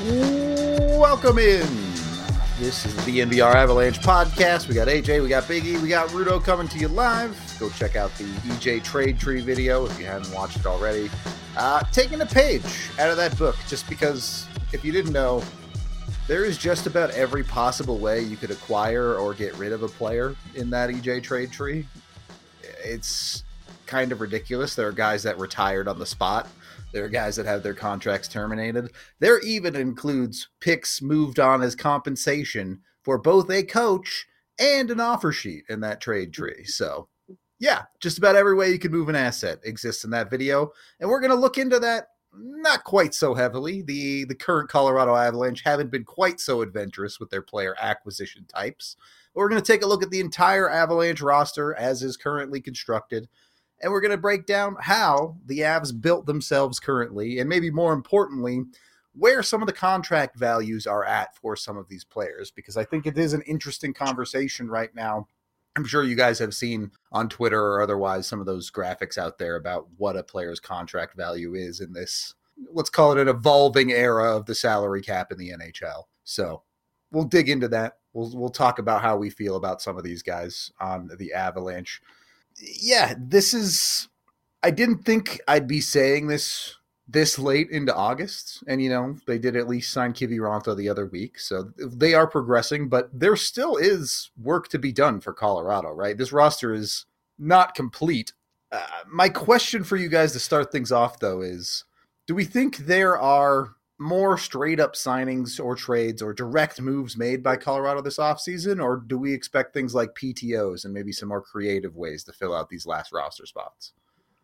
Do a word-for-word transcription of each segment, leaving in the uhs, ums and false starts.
Welcome in. This is the N B R Avalanche podcast. We got A J, we got Biggie, we got Rudo coming to you live. Go check out the E J Trade Tree video if you haven't watched it already. Uh, taking a page out of that book, just because if you didn't know, there is just about every possible way you could acquire or get rid of a player in that E J Trade Tree. It's kind of ridiculous. There are guys that retired on the spot. There are guys that have their contracts terminated. There even includes picks moved on as compensation for both a coach and an offer sheet in that trade tree. So, yeah, just about every way you could move an asset exists in that video. And we're going to look into that not quite so heavily. The, the current Colorado Avalanche haven't been quite so adventurous with their player acquisition types. We're going to take a look at the entire Avalanche roster as is currently constructed. And we're going to break down how the Avs built themselves currently, and maybe more importantly, where some of the contract values are at for some of these players, because I think it is an interesting conversation right now. I'm sure you guys have seen on Twitter or otherwise some of those graphics out there about what a player's contract value is in this, let's call it an evolving era of the salary cap in the N H L. So we'll dig into that. We'll, we'll talk about how we feel about some of these guys on the Avalanche. Yeah, this is, I didn't think I'd be saying this this late into August. And, you know, they did at least sign Kiviranta the other week. So they are progressing, but there still is work to be done for Colorado, right? This roster is not complete. Uh, my question for you guys to start things off, though, is do we think there are more straight up signings or trades or direct moves made by Colorado this offseason, or do we expect things like P T Os and maybe some more creative ways to fill out these last roster spots?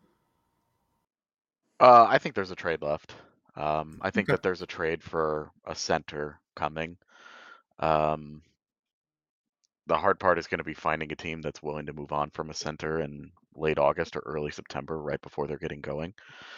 Uh, I think there's a trade left. Um, I think Okay. that there's a trade for a center coming. Um, the hard part is going to be finding a team that's willing to move on from a center in late August or early September, right before they're getting going.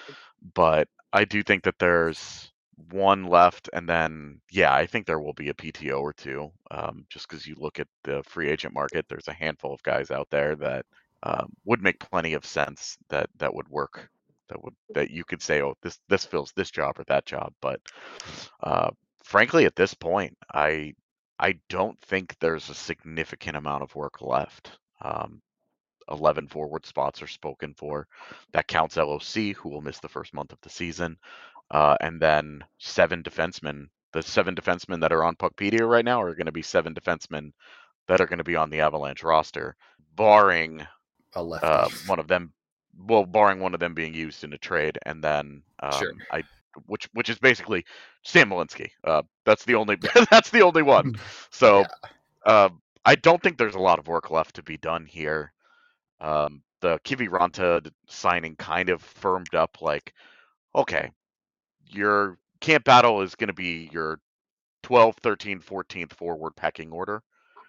But I do think that there's one left, and then, yeah, I think there will be a P T O or two. Um, just because you look at the free agent market, there's a handful of guys out there that um, would make plenty of sense that that would work. That would that you could say, oh, this this fills this job or that job. But uh, frankly, at this point, I I don't think there's a significant amount of work left. Um, eleven forward spots are spoken for. That counts L O C, who will miss the first month of the season. Uh, and then seven defensemen. The seven defensemen that are on Puckpedia right now are going to be seven defensemen that are going to be on the Avalanche roster, barring A lefty. uh, one of them. Well, barring one of them being used in a trade, and then um, Sure. I, which which is basically Sam Malinsky. Uh, that's the only that's the only one. So Yeah. uh, I don't think there's a lot of work left to be done here. Um, the Kiviranta signing kind of firmed up, like, okay, your camp battle is going to be your twelfth, thirteenth, fourteenth forward pecking order.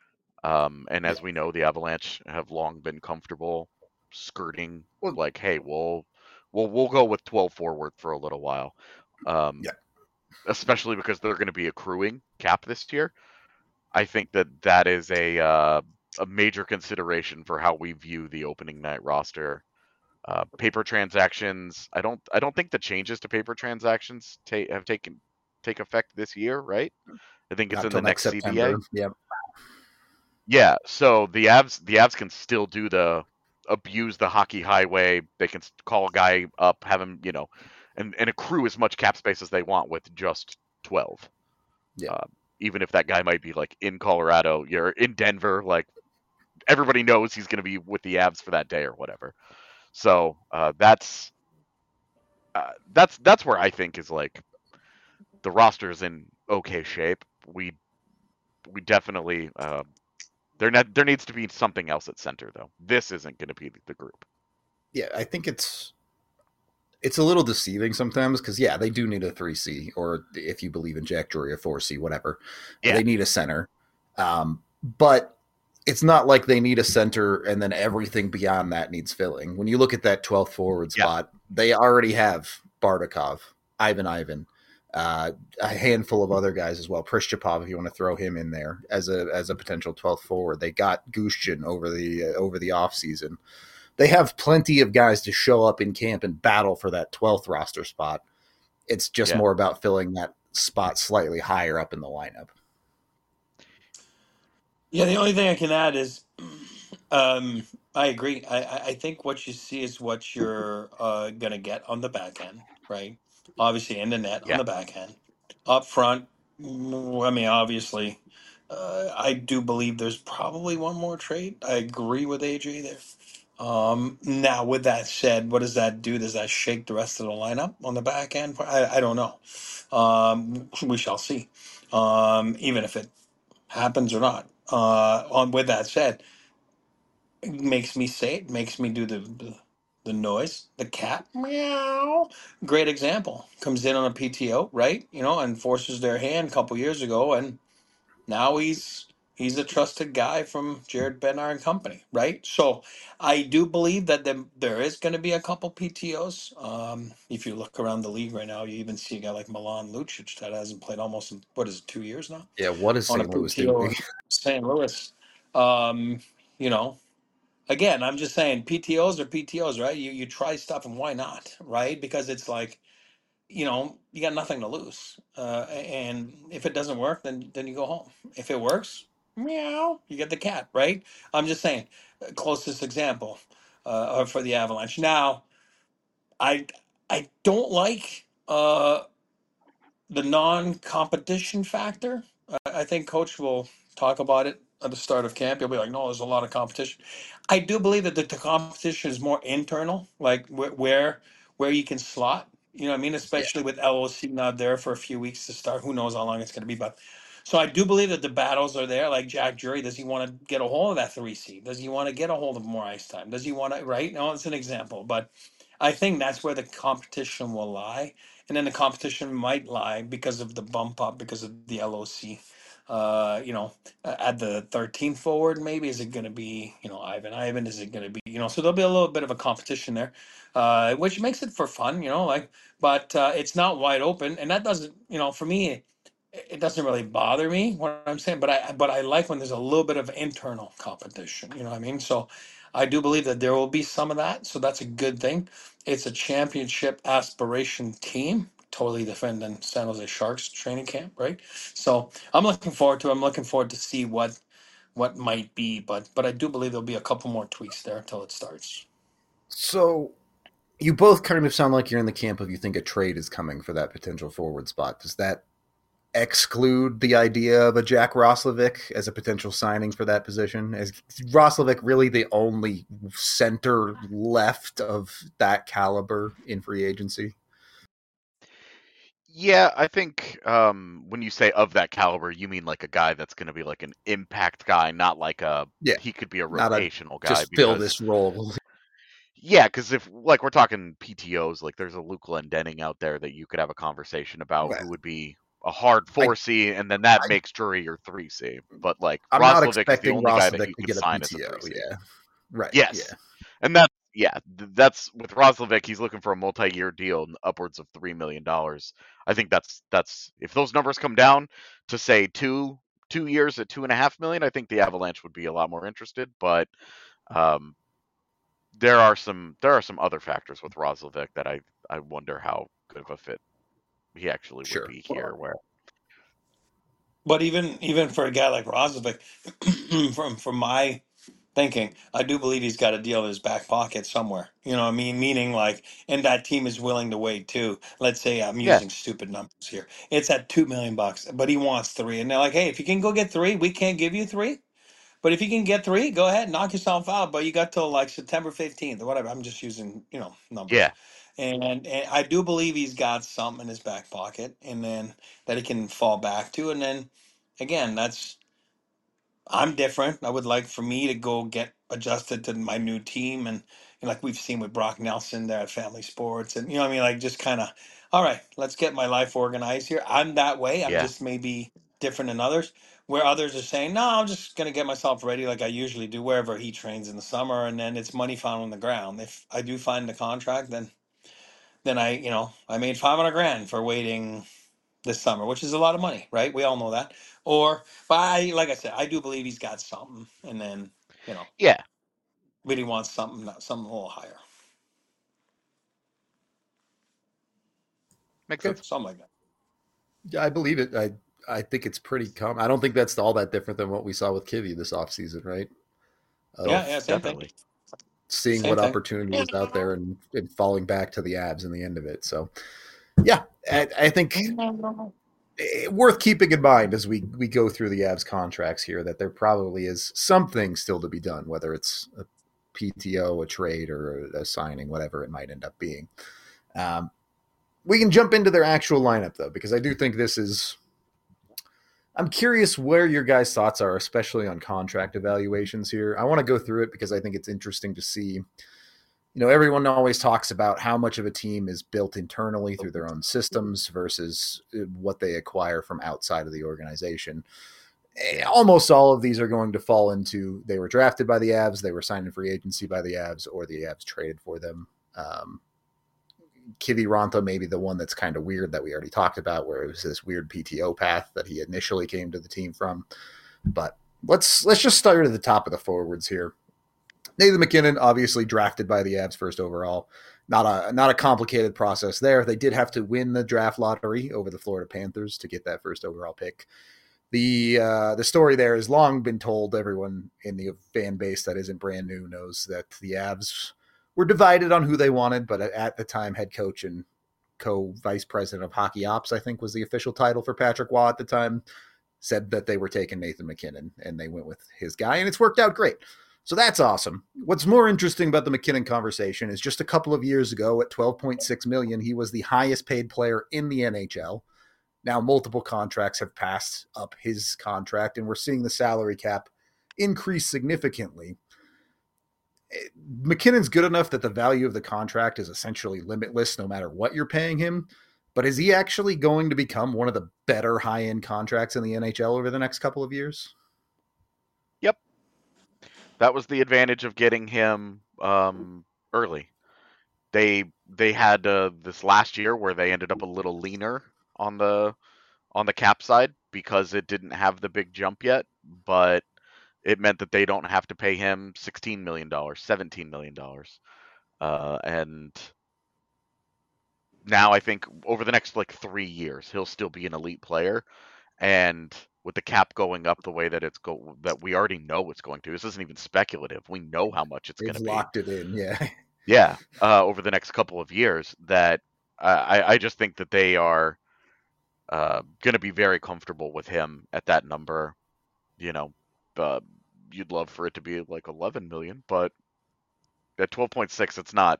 Um, and as Yeah. we know, the Avalanche have long been comfortable skirting, Well, like, hey, we'll we'll we'll go with twelve forward for a little while. Um, Yeah. Especially because they're going to be accruing cap this year. I think that that is a uh, a major consideration for how we view the opening night roster. Uh, paper transactions. I don't. I don't think the changes to paper transactions ta- have taken take effect this year, right? I think it's Not in till the next next C B A. September. Yep. Yeah. So the Avs, the Avs can still do the abuse the hockey highway. They can call a guy up, have him, you know, and and accrue as much cap space as they want with just twelve. Yeah. Uh, even if that guy might be like in Colorado, you're in Denver, like everybody knows he's going to be with the Avs for that day or whatever. So uh, that's uh, that's that's where I think is like the roster is in okay shape. We we definitely uh, there ne- there needs to be something else at center though. This isn't going to be the group. Yeah, I think it's it's a little deceiving sometimes because, yeah, they do need a three C, or if you believe in Jack Drury, a four C, whatever. Yeah. They need a center. Um, but it's not like they need a center and then everything beyond that needs filling. When you look at that twelfth forward Yeah. spot, they already have Bardakov, Ivan Ivan, uh, a handful of other guys as well. Prishchapov, if you want to throw him in there as a as a potential twelfth forward. They got Gushchin over the uh, over the offseason. They have plenty of guys to show up in camp and battle for that twelfth roster spot. It's just Yeah. more about filling that spot slightly higher up in the lineup. Yeah, the only thing I can add is, um, I agree. I, I I think what you see is what you're uh, gonna get on the back end, right? Obviously, in the net on Yeah. the back end, up front. mm, I mean, obviously, uh, I do believe there's probably one more trade. I agree with A J there. Um, now, with that said, what does that do? Does that shake the rest of the lineup on the back end? I, I don't know. Um, we shall see. Um, even if it happens or not. Uh, on with that said, it makes me say it, makes me do the, the the noise, the cat meow. Great example. Comes in on a P T O, right? You know, and forces their hand a couple years ago, and now he's he's a trusted guy from Jared Bednar and company, right? So I do believe that there, there is going to be a couple P T Os. Um, if you look around the league right now, you even see a guy like Milan Lucic that hasn't played almost in, what is it, two years now Yeah, what is on a Saint Louis doing? P T O in Saint Louis. Um, you know, again, I'm just saying P T Os are P T Os, right? You you try stuff and why not, right? Because it's like, you know, you got nothing to lose. Uh, and if it doesn't work, then then you go home. If it works, meow, you get the cat, right? I'm just saying, uh, closest example uh, for the Avalanche. Now, I I don't like uh, the non-competition factor. I, I think coach will talk about it at the start of camp. He'll be like, "No, there's a lot of competition." I do believe that the, the competition is more internal, like wh- where where you can slot. You know what I mean? Yeah. Especially with L O C not there for a few weeks to start. Who knows how long it's going to be? But so I do believe that the battles are there. Like Jack Jury, does he want to get a hold of that three seed? Does he want to get a hold of more ice time? Does he want to? Right? No, it's an example, but I think that's where the competition will lie, and then the competition might lie because of the bump up, because of the L O C. Uh, you know, a- at the thirteenth forward, maybe is it going to be, you know, Ivan Ivan? Is it going to be, you know? So there'll be a little bit of a competition there, uh, which makes it for fun, you know, like. But uh, it's not wide open, and that doesn't, you know, for me, it, it doesn't really bother me what I'm saying. But I, but I like when there's a little bit of internal competition. You know what I mean? So I do believe that there will be some of that. So that's a good thing. It's a championship aspiration team, totally different than San Jose Sharks training camp, right? So I'm looking forward to. it. I'm looking forward to see what what might be, but but I do believe there'll be a couple more tweaks there until it starts. So you both kind of sound like you're in the camp of you think a trade is coming for that potential forward spot. Does that exclude the idea of a Jack Roslovic as a potential signing for that position? Is Roslovic really the only center left of that caliber in free agency? Yeah, I think um, when you say of that caliber, you mean like a guy that's going to be like an impact guy, not like a Yeah, he could be a not a rotational guy. just fill Because this role. yeah, because if like we're talking P T Os, like there's a Luke Glendening out there that you could have a conversation about Well, who would be a hard I, four C, and then that I makes Drury your three C. But like I'm not Roslovic is the expecting only guy that Roslovic you to could get a sign as a P T O. three C. Yeah, right. Yeah, Yes. And that's yeah, th- that's with Roslovic, he's looking for a multi-year deal upwards of three million dollars. I think that's that's if those numbers come down to say two two years at two and a half million, I think the Avalanche would be a lot more interested. But um, there are some there are some other factors with Roslovic that I I wonder how good of a fit he actually would sure. be here. Where But even even for a guy like Rozovic, from from my thinking, I do believe he's got a deal in his back pocket somewhere. You know what I mean? Meaning like, and that team is willing to wait too. Let's say I'm yeah using stupid numbers here. It's at two million bucks, but he wants three, and they're like, hey, if you can go get three, we can't give you three. But if you can get three, go ahead, knock yourself out. But you got till like September fifteenth or whatever. I'm just using, you know, numbers. yeah And, and I do believe he's got something in his back pocket and then that he can fall back to. And then again, that's I'm different. I would like for me to go get adjusted to my new team, and, and like we've seen with Brock Nelson there at Family Sports, and you know what I mean, like just kind of, all right, let's get my life organized here. I'm that way. I'm yeah just maybe different than others, where others are saying, no, I'm just gonna get myself ready like I usually do wherever he trains in the summer, and then it's money found on the ground. If I do find the contract, then then I, you know, I made five hundred grand for waiting this summer, which is a lot of money, right? We all know that. Or, but I, like I said, I do believe he's got something, and then you know, yeah really wants something, not something a little higher, makes Okay. sense. something like that. Yeah, I believe it. I I think it's pretty common. I don't think that's all that different than what we saw with Kivy this offseason, right? Yeah, yeah, Of same thing. Definitely. seeing Same what thing. opportunity was out there and, and falling back to the abs in the end of it. So, yeah, I, I think worth keeping in mind as we we go through the abs contracts here that there probably is something still to be done, whether it's a P T O, a trade, or a, a signing, whatever it might end up being. Um, we can jump into their actual lineup though, because I do think this is. I'm curious where your guys' thoughts are, especially on contract evaluations here. I want to go through it because I think it's interesting to see. You know, everyone always talks about how much of a team is built internally through their own systems versus what they acquire from outside of the organization. Almost all of these are going to fall into they were drafted by the Avs, they were signed in free agency by the Avs, or the Avs traded for them. Um, Kiviranta may be the one that's kind of weird that we already talked about, where it was this weird P T O path that he initially came to the team from. But let's let's just start at the top of the forwards here. Nathan MacKinnon, obviously drafted by the Avs first overall. Not a not a complicated process there. They did have to win the draft lottery over the Florida Panthers to get that first overall pick. The uh, the story there has long been told. Everyone in the fan base that isn't brand new knows that the Avs were divided on who they wanted, but at the time, head coach and co-vice president of hockey ops, I think was the official title for Patrick Waugh at the time, said that they were taking Nathan MacKinnon, and they went with his guy, and it's worked out great. So that's awesome. What's more interesting about the MacKinnon conversation is just a couple of years ago at twelve point six million dollars, he was the highest paid player in the N H L. Now multiple contracts have passed up his contract, and we're seeing the salary cap increase significantly. MacKinnon's good enough that the value of the contract is essentially limitless no matter what you're paying him. But is he actually going to become one of the better high-end contracts in the N H L over the next couple of years? Yep. That was the advantage of getting him um, early. They they had uh, this last year where they ended up a little leaner on the on the cap side because it didn't have the big jump yet, but it meant that they don't have to pay him sixteen million dollars, seventeen million dollars. Uh, and now I think over the next like three years, he'll still be an elite player. And with the cap going up the way that it's go that we already know it's going to, this isn't even speculative. We know how much it's going to be. Locked it in, yeah. Yeah, uh, over the next couple of years, that uh, I, I just think that they are uh, going to be very comfortable with him at that number. You know, uh, you'd love for it to be like eleven million, but at twelve point six, it's not.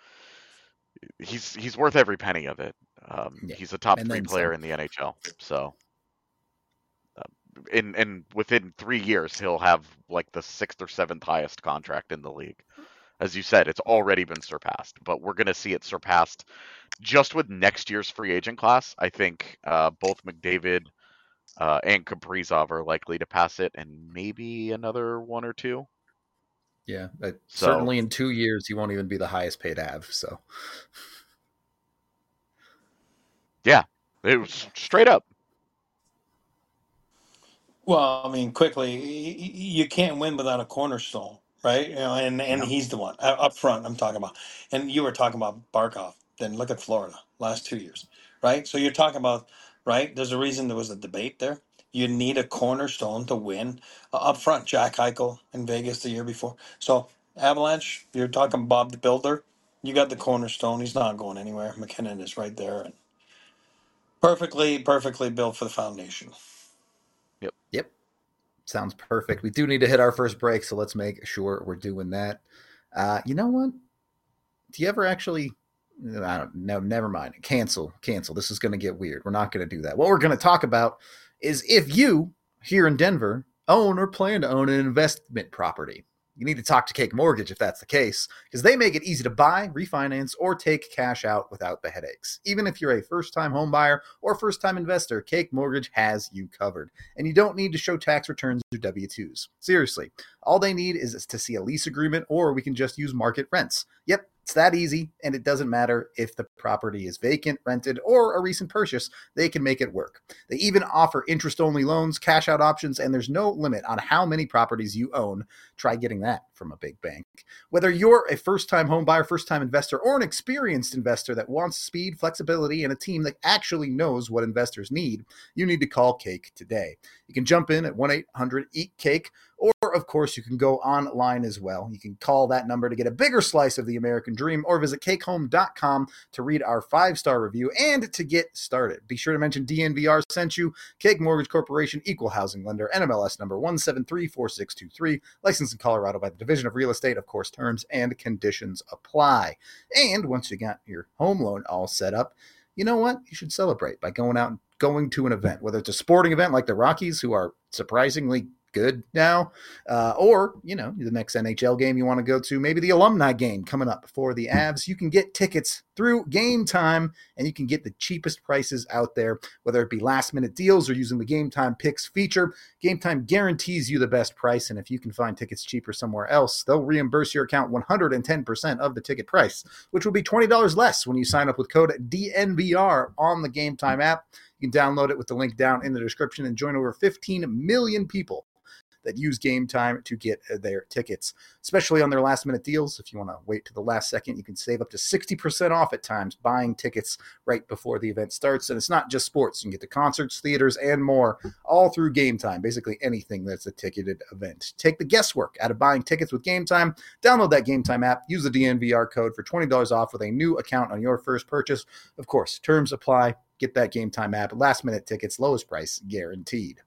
He's he's worth every penny of it. Um, yeah. He's a top and three player some. in the N H L. So, uh, in and within three years, he'll have like the sixth or seventh highest contract in the league. As you said, it's already been surpassed, but we're going to see it surpassed just with next year's free agent class. I think uh, both McDavid uh, and Kaprizov are likely to pass it, and maybe another one or two. Yeah, uh, so, certainly in two years, he won't even be the highest paid A V. So, yeah, it was straight up. Well, I mean, quickly, you can't win without a cornerstone, right? You know, and and yeah. he's the one uh, up front. I'm talking about, and you were talking about Barkov. Then look at Florida last two years, right? So you're talking about, right? There's a reason there was a debate there. You need a cornerstone to win uh, up front. Jack Eichel in Vegas the year before. So Avalanche, you're talking Bob the Builder. You got the cornerstone. He's not going anywhere. MacKinnon is right there, and perfectly, perfectly built for the foundation. Yep. Yep. Sounds perfect. We do need to hit our first break, so let's make sure we're doing that. Uh, you know what? Do you ever actually? I don't know. Never mind. Cancel. Cancel. This is going to get weird. We're not going to do that. What we're going to talk about is if you here in Denver own or plan to own an investment property. You need to talk to Cake Mortgage if that's the case, because they make it easy to buy, refinance, or take cash out without the headaches. Even if you're a first-time home buyer or first-time investor, Cake Mortgage has you covered. And you don't need to show tax returns or W two's. Seriously, all they need is to see a lease agreement, or we can just use market rents. Yep, it's that easy, and it doesn't matter if the property is vacant, rented, or a recent purchase. They can make it work. They even offer interest-only loans, cash-out options, and there's no limit on how many properties you own. Try getting that from a big bank. Whether you're a first-time home buyer, first-time investor, or an experienced investor that wants speed, flexibility, and a team that actually knows what investors need, you need to call Cake today. You can jump in at one eight hundred eat cake, or, of course, you can go online as well. You can call that number to get a bigger slice of the American dream, or visit cake home dot com to read our five-star review and to get started. Be sure to mention D N V R sent you. Cake Mortgage Corporation, Equal Housing Lender, N M L S number one seven three four six two three, licensed in Colorado by the Division of Real Estate. Of course, terms and conditions apply. And once you got your home loan all set up, you know what? You should celebrate by going out and going to an event, whether it's a sporting event like the Rockies, who are surprisingly good now, uh, or, you know, the next N H L game you want to go to, maybe the alumni game coming up for the Avs. You can get tickets through Game Time, and you can get the cheapest prices out there, whether it be last minute deals or using the Game Time Picks feature. Game Time guarantees you the best price, and if you can find tickets cheaper somewhere else, they'll reimburse your account one hundred ten percent of the ticket price, which will be twenty dollars less when you sign up with code D N V R on the Game Time app. You can download it with the link down in the description and join over fifteen million people that use Game Time to get their tickets, especially on their last minute deals. If you want to wait to the last second, you can save up to sixty percent off at times buying tickets right before the event starts. And it's not just sports. You can get to concerts, theaters, and more all through Game Time, basically anything that's a ticketed event. Take the guesswork out of buying tickets with Game Time. Download that Game Time app. Use the D N V R code for twenty dollars off with a new account on your first purchase. Of course, terms apply. Get that Game Time app. Last minute tickets, lowest price guaranteed.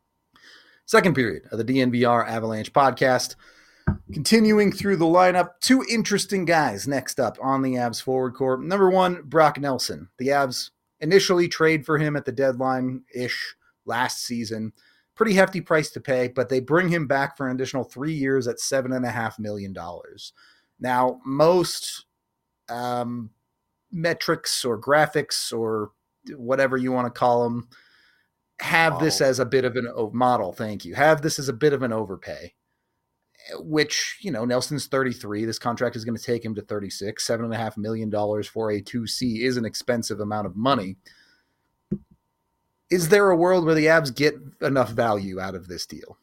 Second period of the D N V R Avalanche podcast. Continuing through the lineup, two interesting guys next up on the Avs forward core. Number one, Brock Nelson. The Avs initially trade for him at the deadline-ish last season. Pretty hefty price to pay, but they bring him back for an additional three years at seven point five million dollars. Now, most um, metrics or graphics or whatever you want to call them have this as a bit of an oh, model. Thank you. Have this as a bit of an overpay, which, you know, Nelson's thirty-three. This contract is going to take him to thirty-six. Seven and a half million dollars for a two C is an expensive amount of money. Is there a world where the Avs get enough value out of this deal?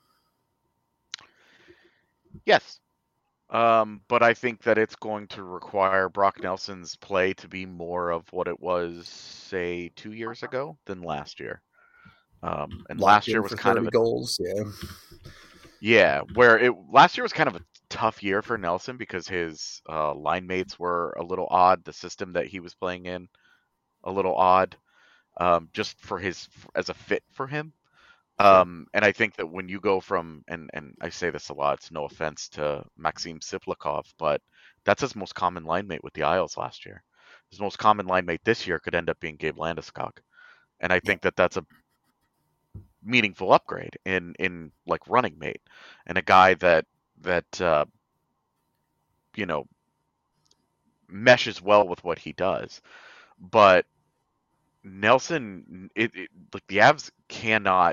Yes. Um, but I think that it's going to require Brock Nelson's play to be more of what it was, say, two years ago than last year. Um, and last year was kind of a, goals, yeah, yeah, where it last year was kind of a tough year for Nelson because his uh, line mates were a little odd. The system that he was playing in, a little odd, um, just for his as a fit for him. Um, and I think that when you go from, and and I say this a lot, it's no offense to Maxim Siplikov, but that's his most common line mate with the Isles last year. His most common line mate this year could end up being Gabe Landeskog, and I think that that's a meaningful upgrade in in like running mate and a guy that that uh you know meshes well with what he does. But Nelson, it, it like the Avs cannot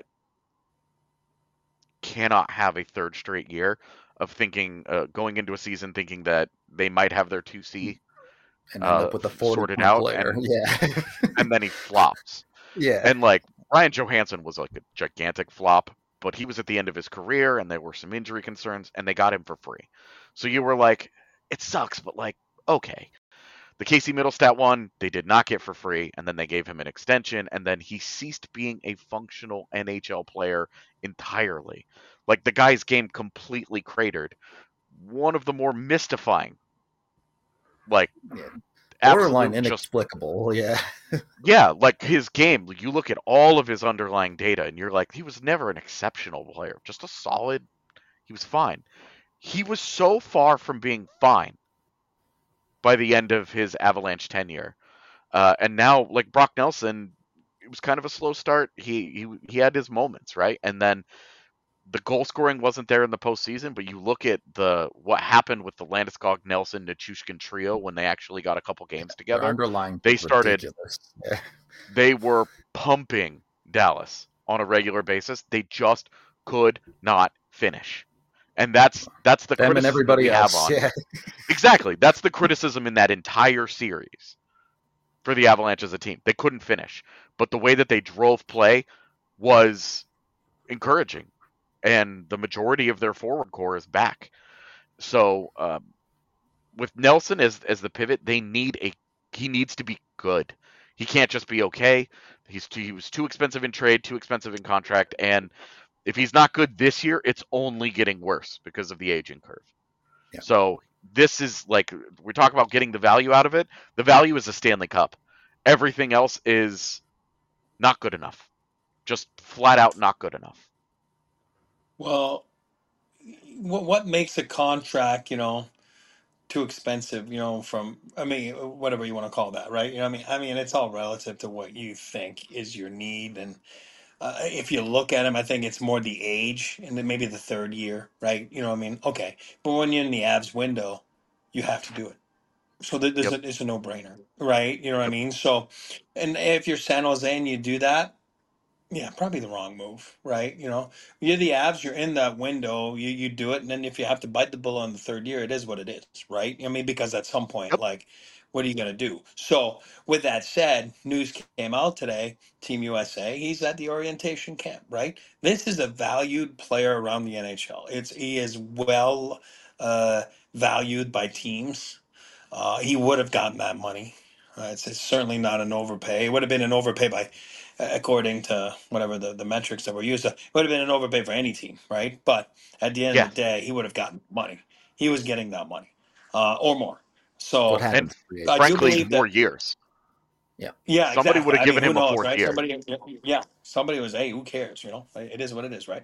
cannot have a third straight year of thinking uh, going into a season thinking that they might have their two C and end uh, up with a sorted out player. And, yeah and then he flops. Yeah. And like Ryan Johansson was like a gigantic flop, but he was at the end of his career and there were some injury concerns and they got him for free. So you were like, it sucks, but like, okay. The Casey Middlestat one, they did not get for free, and then they gave him an extension, and then he ceased being a functional N H L player entirely. Like, the guy's game completely cratered. One of the more mystifying, like, yeah. borderline inexplicable, just, yeah. yeah, like his game, you look at all of his underlying data, and you're like, he was never an exceptional player, just a solid, he was fine. He was so far from being fine by the end of his Avalanche tenure. Uh, and now, like Brock Nelson, it was kind of a slow start. He, he he had his moments, right? And then the goal scoring wasn't there in the postseason, but you look at the what happened with the Landeskog, Nelson, Nichushkin trio when they actually got a couple games together. Their underlying they started, yeah. They were pumping Dallas on a regular basis. They just could not finish. And that's that's the Them criticism and everybody we else. have on. Yeah. Exactly. That's the criticism in that entire series for the Avalanche as a team. They couldn't finish. But the way that they drove play was encouraging. And the majority of their forward core is back. So um, with Nelson as as the pivot, they need a he needs to be good. He can't just be okay. He's too, he was too expensive in trade, too expensive in contract, and if he's not good this year, it's only getting worse because of the aging curve. Yeah. So this is like we talk about getting the value out of it. The value is a Stanley Cup. Everything else is not good enough. Just flat out not good enough. Well, what what makes a contract, you know, too expensive, you know, from I mean, whatever you want to call that, right? You know, what I mean, I mean, it's all relative to what you think is your need, and uh, if you look at him, I think it's more the age and then maybe the third year, right? You know, what I mean, okay, but when you're in the Avs window, you have to do it. So th- there's Yep. a, it's a no brainer, right? You know what I Yep. mean? So, and if you're San Jose and you do that, yeah, probably the wrong move, right? You know, you're the Avs, you're in that window, you you do it, and then if you have to bite the bullet on the third year, it is what it is, right? I mean, because at some point, Yep. like, what are you gonna do? So, with that said, news came out today, Team U S A, he's at the orientation camp, right? This is a valued player around the N H L. It's he is well uh, valued by teams. Uh, he would have gotten that money. Uh, it's, it's certainly not an overpay. It would have been an overpay by according to whatever the, the metrics that were used. It would have been an overpay for any team, right? But at the end Yeah. of the day, he would have gotten money. He was getting that money uh, or more. What So happens? And I do frankly, believe more that. years. Yeah. Yeah, Somebody would exactly. have I mean, given who him a knows, fourth right? year. Somebody, yeah, somebody was, hey, who cares? You know, it is what it is, right?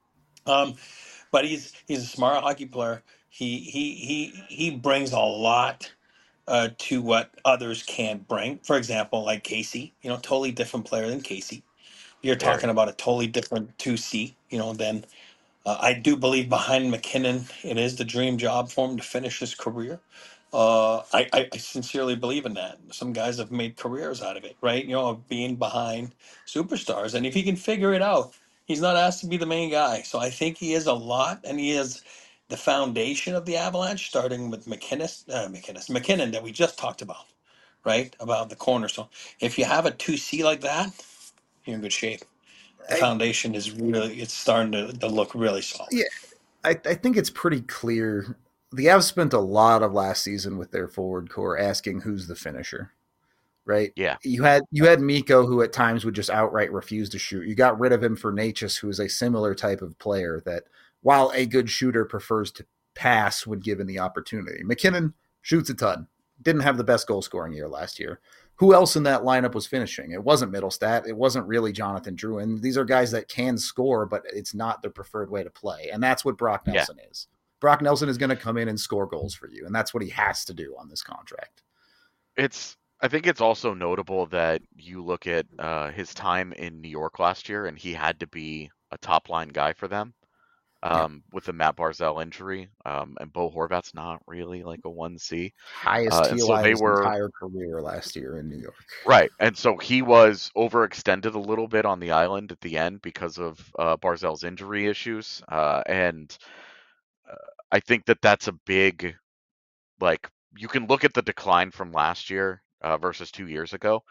Um, but he's he's a smart hockey player. He he he he brings a lot uh, to what others can't bring. For example, like Casey, you know, totally different player than Casey. You're Very. talking about a totally different two C, you know, than uh, I do believe behind McKinnon, it is the dream job for him to finish his career. Uh, I, I, I sincerely believe in that. Some guys have made careers out of it, right? You know, of being behind superstars. And if he can figure it out, he's not asked to be the main guy. So I think he is a lot, and he is the foundation of the Avalanche, starting with McKinnis, uh, McKinnis, McKinnon that we just talked about, right? About the cornerstone. If you have a two C like that, you're in good shape. The I, foundation is really, it's starting to, to look really solid. yeah, I, I think it's pretty clear. The Avs spent a lot of last season with their forward core asking who's the finisher, right? Yeah. You had you had Mikko, who at times would just outright refuse to shoot. You got rid of him for Natchez, who is a similar type of player that, while a good shooter, prefers to pass when given the opportunity. McKinnon shoots a ton. Didn't have the best goal scoring year last year. Who else in that lineup was finishing? It wasn't Middlestat. It wasn't really Jonathan Drouin. These are guys that can score, but it's not their preferred way to play. And that's what Brock Nelson yeah. is. Brock Nelson is going to come in and score goals for you. And that's what he has to do on this contract. It's, I think it's also notable that you look at uh, his time in New York last year, and he had to be a top line guy for them. Um, yeah. With the Matt Barzal injury, um, and Bo Horvat's not really like a one C. Highest uh, T O I so they were, entire career last year in New York. Right, and so he was overextended a little bit on the island at the end because of uh, Barzal's injury issues, uh, and uh, I think that that's a big, like, you can look at the decline from last year uh, versus two years ago,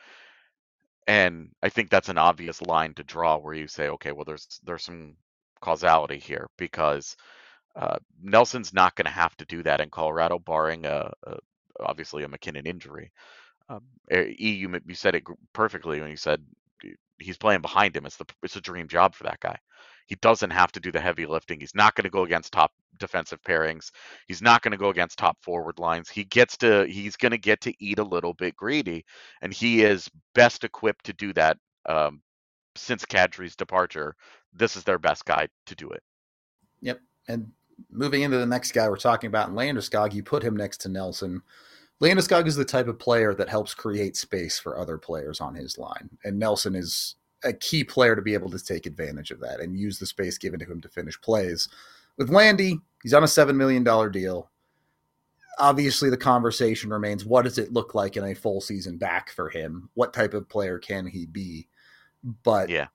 and I think that's an obvious line to draw where you say, okay, well, there's there's some causality here because uh, Nelson's not going to have to do that in Colorado, barring a, a obviously a McKinnon injury. Um, E, you, you said it perfectly when you said he's playing behind him. It's the it's a dream job for that guy. He doesn't have to do the heavy lifting. He's not going to go against top defensive pairings. He's not going to go against top forward lines. He gets to he's going to get to eat a little bit greedy, and he is best equipped to do that. Um, since Kadri's departure, this is their best guy to do it. Yep. And moving into the next guy we're talking about in Landeskog, you put him next to Nelson. Landeskog is the type of player that helps create space for other players on his line. And Nelson is a key player to be able to take advantage of that and use the space given to him to finish plays. With Landy, he's on a seven million dollars deal. Obviously, the conversation remains, what does it look like in a full season back for him? What type of player can he be? But yeah,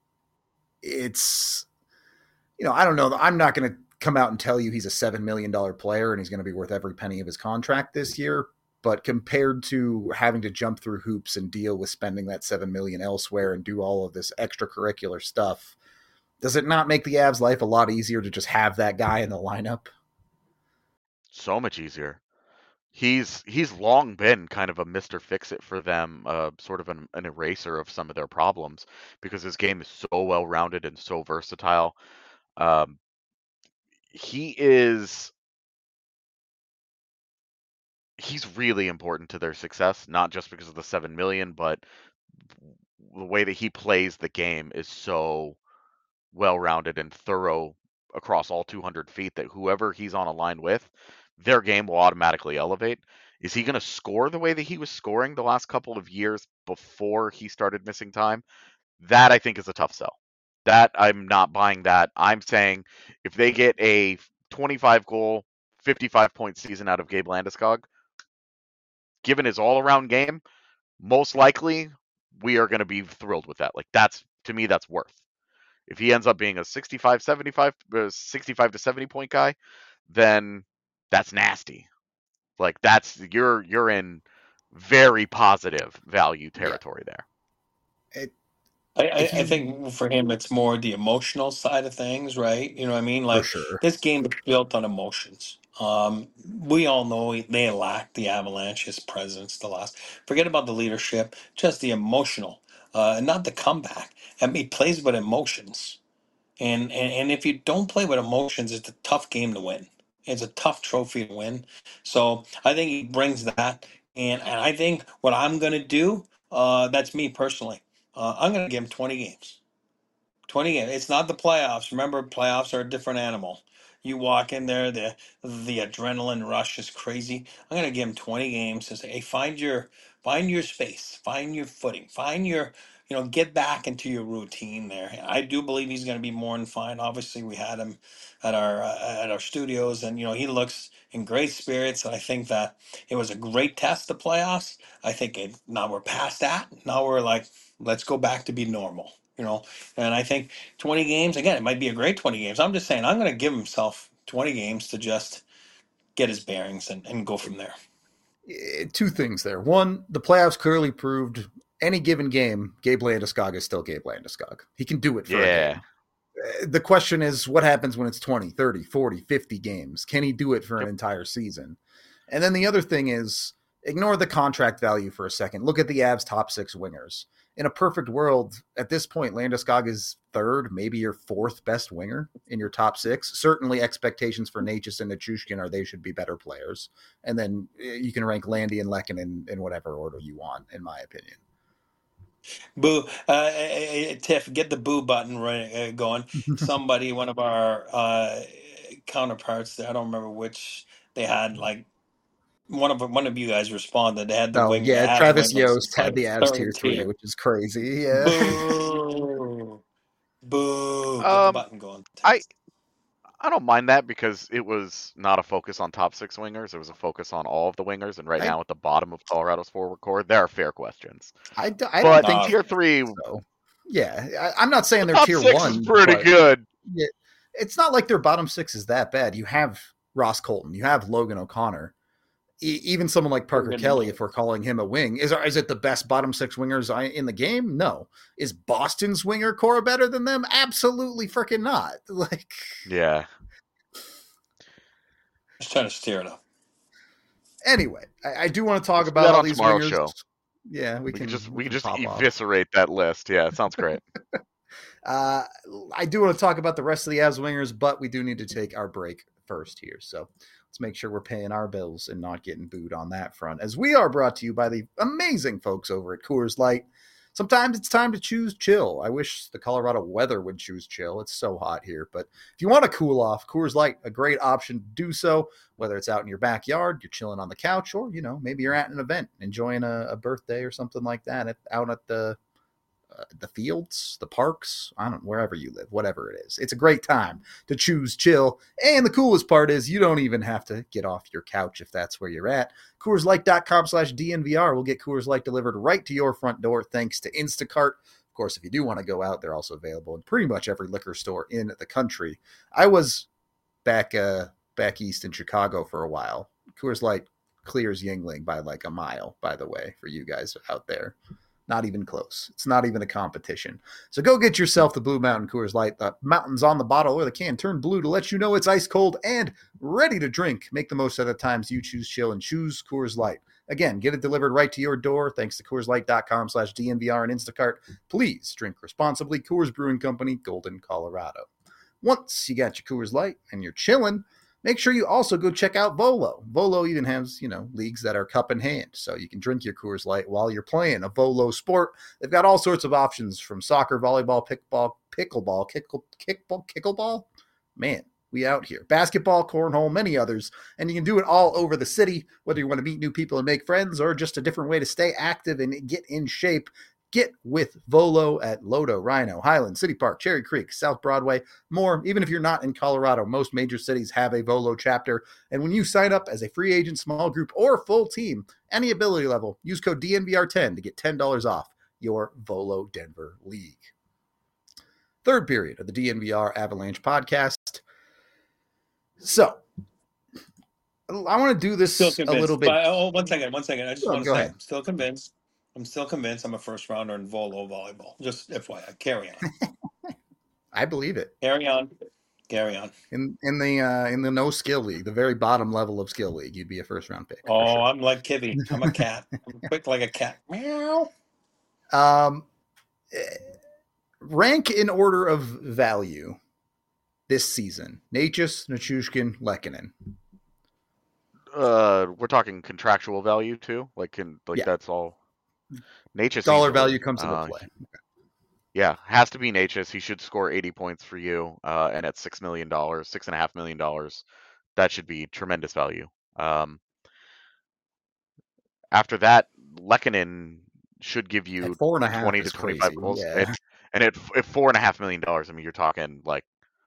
it's, you know, I don't know. I'm not going to come out and tell you he's a seven million dollars player and he's going to be worth every penny of his contract this year. But compared to having to jump through hoops and deal with spending that seven million dollars elsewhere and do all of this extracurricular stuff, does it not make the Avs' life a lot easier to just have that guy in the lineup? So much easier. he's he's long been kind of a Mister Fix-It for them, uh, sort of an, an eraser of some of their problems because his game is so well-rounded and so versatile. Um, he is he's really important to their success, not just because of the seven million, but the way that he plays the game is so well-rounded and thorough across all two hundred feet that whoever he's on a line with, their game will automatically elevate. Is he going to score the way that he was scoring the last couple of years before he started missing time? That I think is a tough sell. That I'm not buying that. I'm saying if they get a twenty-five goal, fifty-five point season out of Gabe Landeskog, given his all-around game, most likely we are going to be thrilled with that. Like that's, to me, that's worth. If he ends up being a sixty-five, seventy-five, uh, sixty-five to seventy point guy, then that's nasty. Like that's you're you're in very positive value territory yeah. there. It, I, I, you, I think for him, it's more the emotional side of things, right? You know what I mean? Like sure. this game is built on emotions. Um, we all know they lack the Avalanche's presence. The last, forget about the leadership, just the emotional, uh, and not the comeback. I mean, he plays with emotions. And, and and if you don't play with emotions, it's a tough game to win. It's a tough trophy to win. So I think he brings that. And, and I think what I'm going to do, uh, that's me personally, uh, I'm going to give him twenty games. twenty games. It's not the playoffs. Remember, playoffs are a different animal. You walk in there, the the adrenaline rush is crazy. I'm gonna give him twenty games to say, hey, find your find your space, find your footing, find your you know, get back into your routine there. I do believe he's gonna be more than fine. Obviously, we had him at our uh, at our studios, and you know he looks in great spirits. And I think that it was a great test, the playoffs. I think it, now we're past that. Now we're like, let's go back to be normal. You know, and I think twenty games, again, it might be a great twenty games. I'm just saying, I'm going to give himself twenty games to just get his bearings and, and go from there. Two things there. One, the playoffs clearly proved any given game, Gabe Landeskog is still Gabe Landeskog. He can do it for yeah. a game. The question is, what happens when it's twenty, thirty, forty, fifty games? Can he do it for yep. an entire season? And then the other thing is, ignore the contract value for a second. Look at the Avs' top six wingers. In a perfect world, at this point, Landeskog is third, maybe your fourth best winger in your top six. Certainly expectations for Necas and Nichushkin are they should be better players. And then you can rank Landy and Lekin in, in whatever order you want, in my opinion. Boo. Uh, Tiff, get the boo button right, uh, going. Somebody, one of our uh, counterparts, I don't remember which, they had like, One of one of you guys responded. They had the oh, wing. Yeah, Travis wing Yost had like the Avs tier three, which is crazy. Yeah. Boo. Boo. Get Um, the button going. I I don't mind that because it was not a focus on top six wingers. It was a focus on all of the wingers. And right I, now at the bottom of Colorado's forward core, there are fair questions. I, I but don't think tier three. So. Yeah, I, I'm not saying they're top tier six one. Is pretty good. Yeah, it's not like their bottom six is that bad. You have Ross Colton. You have Logan O'Connor. Even someone like Parker Kelly, if we're calling him a wing, is is it the best bottom six wingers in the game? No. Is Boston's winger core better than them? Absolutely freaking not. Like, yeah. Just trying to steer it up. Anyway, I, I do want to talk Let's about all on these tomorrow's wingers. Show. Yeah, we, we can, can just we can can just off. eviscerate that list. Yeah, it sounds great. uh, I do want to talk about the rest of the Avs wingers, but we do need to take our break first here. So let's make sure we're paying our bills and not getting booed on that front, as we are brought to you by the amazing folks over at Coors Light. Sometimes it's time to choose chill. I wish the Colorado weather would choose chill. It's so hot here. But if you want to cool off, Coors Light, a great option to do so, whether it's out in your backyard, you're chilling on the couch, or, you know, maybe you're at an event, enjoying a, a birthday or something like that at, out at the Uh, the fields, the parks, I don't know, wherever you live, whatever it is. It's a great time to choose chill. And the coolest part is you don't even have to get off your couch if that's where you're at. CoorsLight.com slash DNVR will get Coors Light delivered right to your front door thanks to Instacart. Of course, if you do want to go out, they're also available in pretty much every liquor store in the country. I was back uh, back east in Chicago for a while. Coors Light clears Yuengling by like a mile, by the way, for you guys out there. Not even close. It's not even a competition. So go get yourself the Blue Mountain Coors Light. The mountains on the bottle or the can turn blue to let you know it's ice cold and ready to drink. Make the most of the times you choose chill and choose Coors Light. Again, get it delivered right to your door thanks to Coors Light dot com slash D N V R and Instacart. Please drink responsibly. Coors Brewing Company, Golden, Colorado. Once you got your Coors Light and you're chilling, make sure you also go check out Volo. Volo even has, you know, leagues that are cup in hand, so you can drink your Coors Light while you're playing a Volo sport. They've got all sorts of options from soccer, volleyball, pickball, pickleball, kickle, kickball, kickleball. Man, we out here. Basketball, cornhole, many others, and you can do it all over the city, whether you want to meet new people and make friends or just a different way to stay active and get in shape. Get with Volo at Lodo, Rhino, Highland, City Park, Cherry Creek, South Broadway, more. Even if you're not in Colorado, most major cities have a Volo chapter. And when you sign up as a free agent, small group, or full team, any ability level, use code D N V R ten to get ten dollars off your Volo Denver League. Third period of the D N V R Avalanche podcast. So, I want to do this Still a convinced. little bit. But, oh, one second, one second. I just Oh, want to go say, ahead. I'm still convinced. I'm still convinced I'm a first rounder in Volo volleyball. Just F Y I. Carry on. I believe it. Carry on. Carry on. In in the uh, in the no skill league, the very bottom level of skill league, you'd be a first round pick. Oh, sure. I'm like Kivy. I'm a cat. I'm quick like a cat. Meow. Um, rank in order of value this season: Necas, Nichushkin, Lehkonen. Uh, we're talking contractual value too. Like, can like Yeah. that's all. Necas Dollar easily, value comes into uh, play. Yeah, has to be Necas. He should score eighty points for you, uh, and at six million dollars, six and a half million dollars, that should be tremendous value. Um, after that, Lehkonen should give you At four and a half twenty is to twenty-five crazy. goals, Yeah. and, and at, at four and a half million dollars, I mean, you're talking like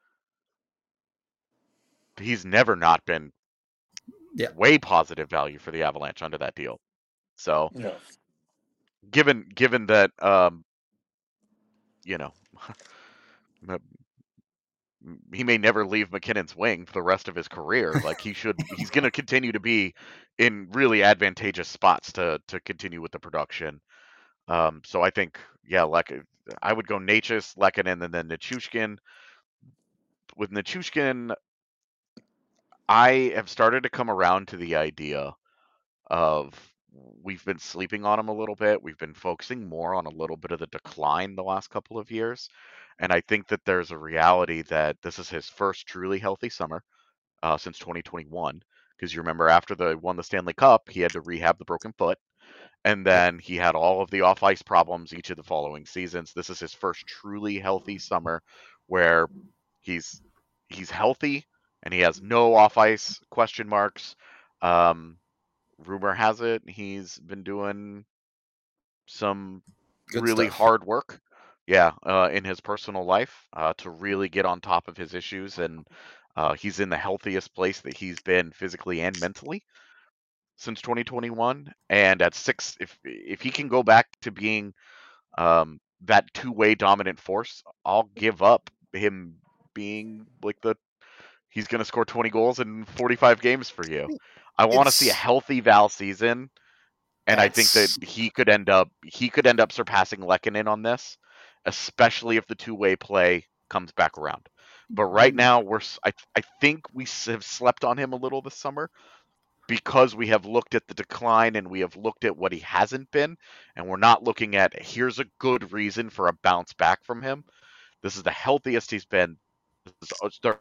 he's never not been Yeah. way positive value for the Avalanche under that deal. So, Yeah. given given that, um, you know. he may never leave McKinnon's wing for the rest of his career. Like he should, he's going to continue to be in really advantageous spots to to continue with the production. Um, so I think, yeah, like I would go Necas, Lehkonen, and then Nichushkin. With Nichushkin, I have started to come around to the idea of we've been sleeping on him a little bit. We've been focusing more on a little bit of the decline the last couple of years. And I think that there's a reality that this is his first truly healthy summer uh, since twenty twenty-one. Because you remember after they won the Stanley Cup, he had to rehab the broken foot. And then he had all of the off-ice problems each of the following seasons. This is his first truly healthy summer where he's he's healthy and he has no off-ice question marks. Um, rumor has it he's been doing some Good really stuff. hard work, yeah, uh, in his personal life uh, to really get on top of his issues, and uh, he's in the healthiest place that he's been physically and mentally since twenty twenty-one. And at six, if if he can go back to being um, that two-way dominant force, I'll give up him being like the he's going to score twenty goals in forty-five games for you. I want to see a It's- healthy Val season. And I think that That's- he could end up he could end up surpassing Lehkonen on this, especially if the two-way play comes back around. But right now, we're s- I I think we s- have slept on him a little this summer because we have looked at the decline and we have looked at what he hasn't been, and we're not looking at here's a good reason for a bounce back from him. This is the healthiest he's been. This is uh, start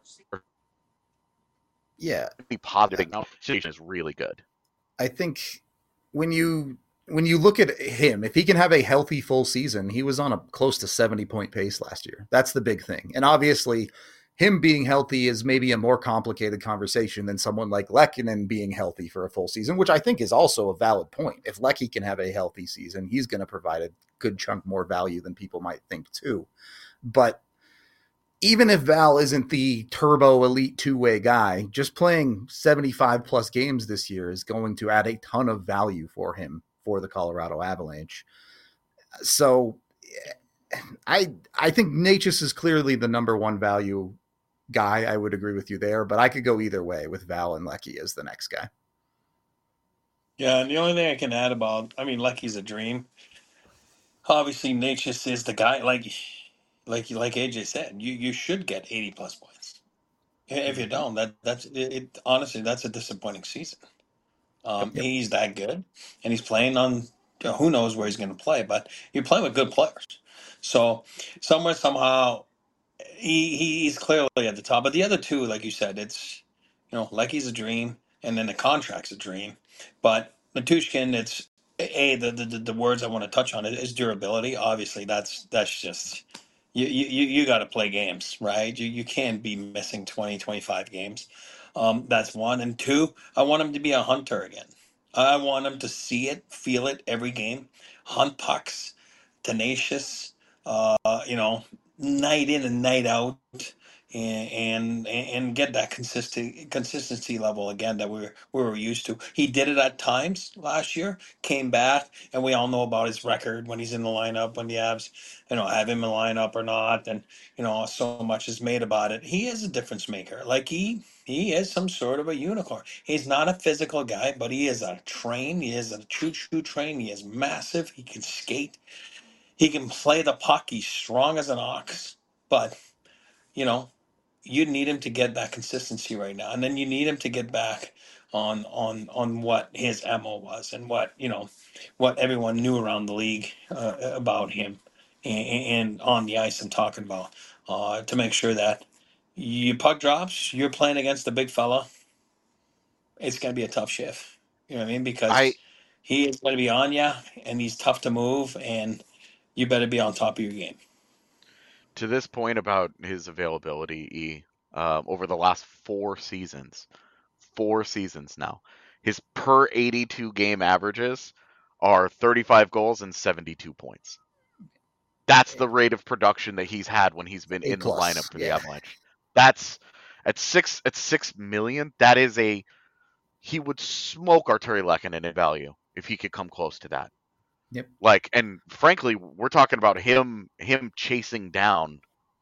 yeah. be positive. Now, situation is really good. I think when you when you look at him, if he can have a healthy full season, he was on a close to seventy point pace last year. That's the big thing. And obviously, him being healthy is maybe a more complicated conversation than someone like Lehkonen being healthy for a full season, which I think is also a valid point. If Lecky can have a healthy season, he's going to provide a good chunk more value than people might think too. But even if Val isn't the turbo elite two-way guy, just playing seventy-five plus games this year is going to add a ton of value for him for the Colorado Avalanche. So I I think Necas is clearly the number one value guy. I would agree with you there, but I could go either way with Val and Lecky as the next guy. Yeah, and the only thing I can add about, I mean, Lecky's a dream. Obviously, Natchez is the guy. Like, like, like A J said, you you should get eighty plus points. If you Mhm. don't, that that's it, it. Honestly, that's a disappointing season. Um, Yep. he's that good, and he's playing on. You know, who knows where he's going to play, but you're playing with good players. So somewhere, somehow, he he's clearly at the top. But the other two, like you said, it's you know, like he's a dream, and then the contract's a dream. But Matushkin, it's a the the, the words I want to touch on is durability. Obviously, that's that's just you you you, you got to play games, right? You you can't be missing twenty twenty-five games. Um, that's one, and two. I want him to be a hunter again. I want him to see it, feel it every game, hunt pucks, tenacious. Uh, you know, night in and night out, and and, and get that consistent consistency level again that we were, we were used to. He did it at times last year, came back, and we all know about his record when he's in the lineup, when the Avs, you know, have him in the lineup or not, and you know, so much is made about it. He is a difference maker. Like he he is some sort of a unicorn. He's not a physical guy, but he is a train. He is a choo choo train. He is massive. He can skate. He can play the puck. He's strong as an ox, but you know, you need him to get that consistency right now, and then you need him to get back on on on what his M O was and what you know, what everyone knew around the league uh, about him, and, and on the ice. I'm talking about uh, to make sure that you puck drops, you're playing against the big fella. It's going to be a tough shift. You know what I mean? I Because he is going to be on you, and he's tough to move, and you better be on top of your game. to this point about his availability, E, um, over the last four seasons, four seasons now, his per eighty-two game averages are thirty-five goals and seventy-two points. That's the rate of production that he's had when he's been A in the plus, lineup for yeah. the Avalanche. That's at six at six million. That is a he would smoke Arturi Lehkonen in value if he could come close to that. Yep. Like, and frankly, we're talking about him him chasing down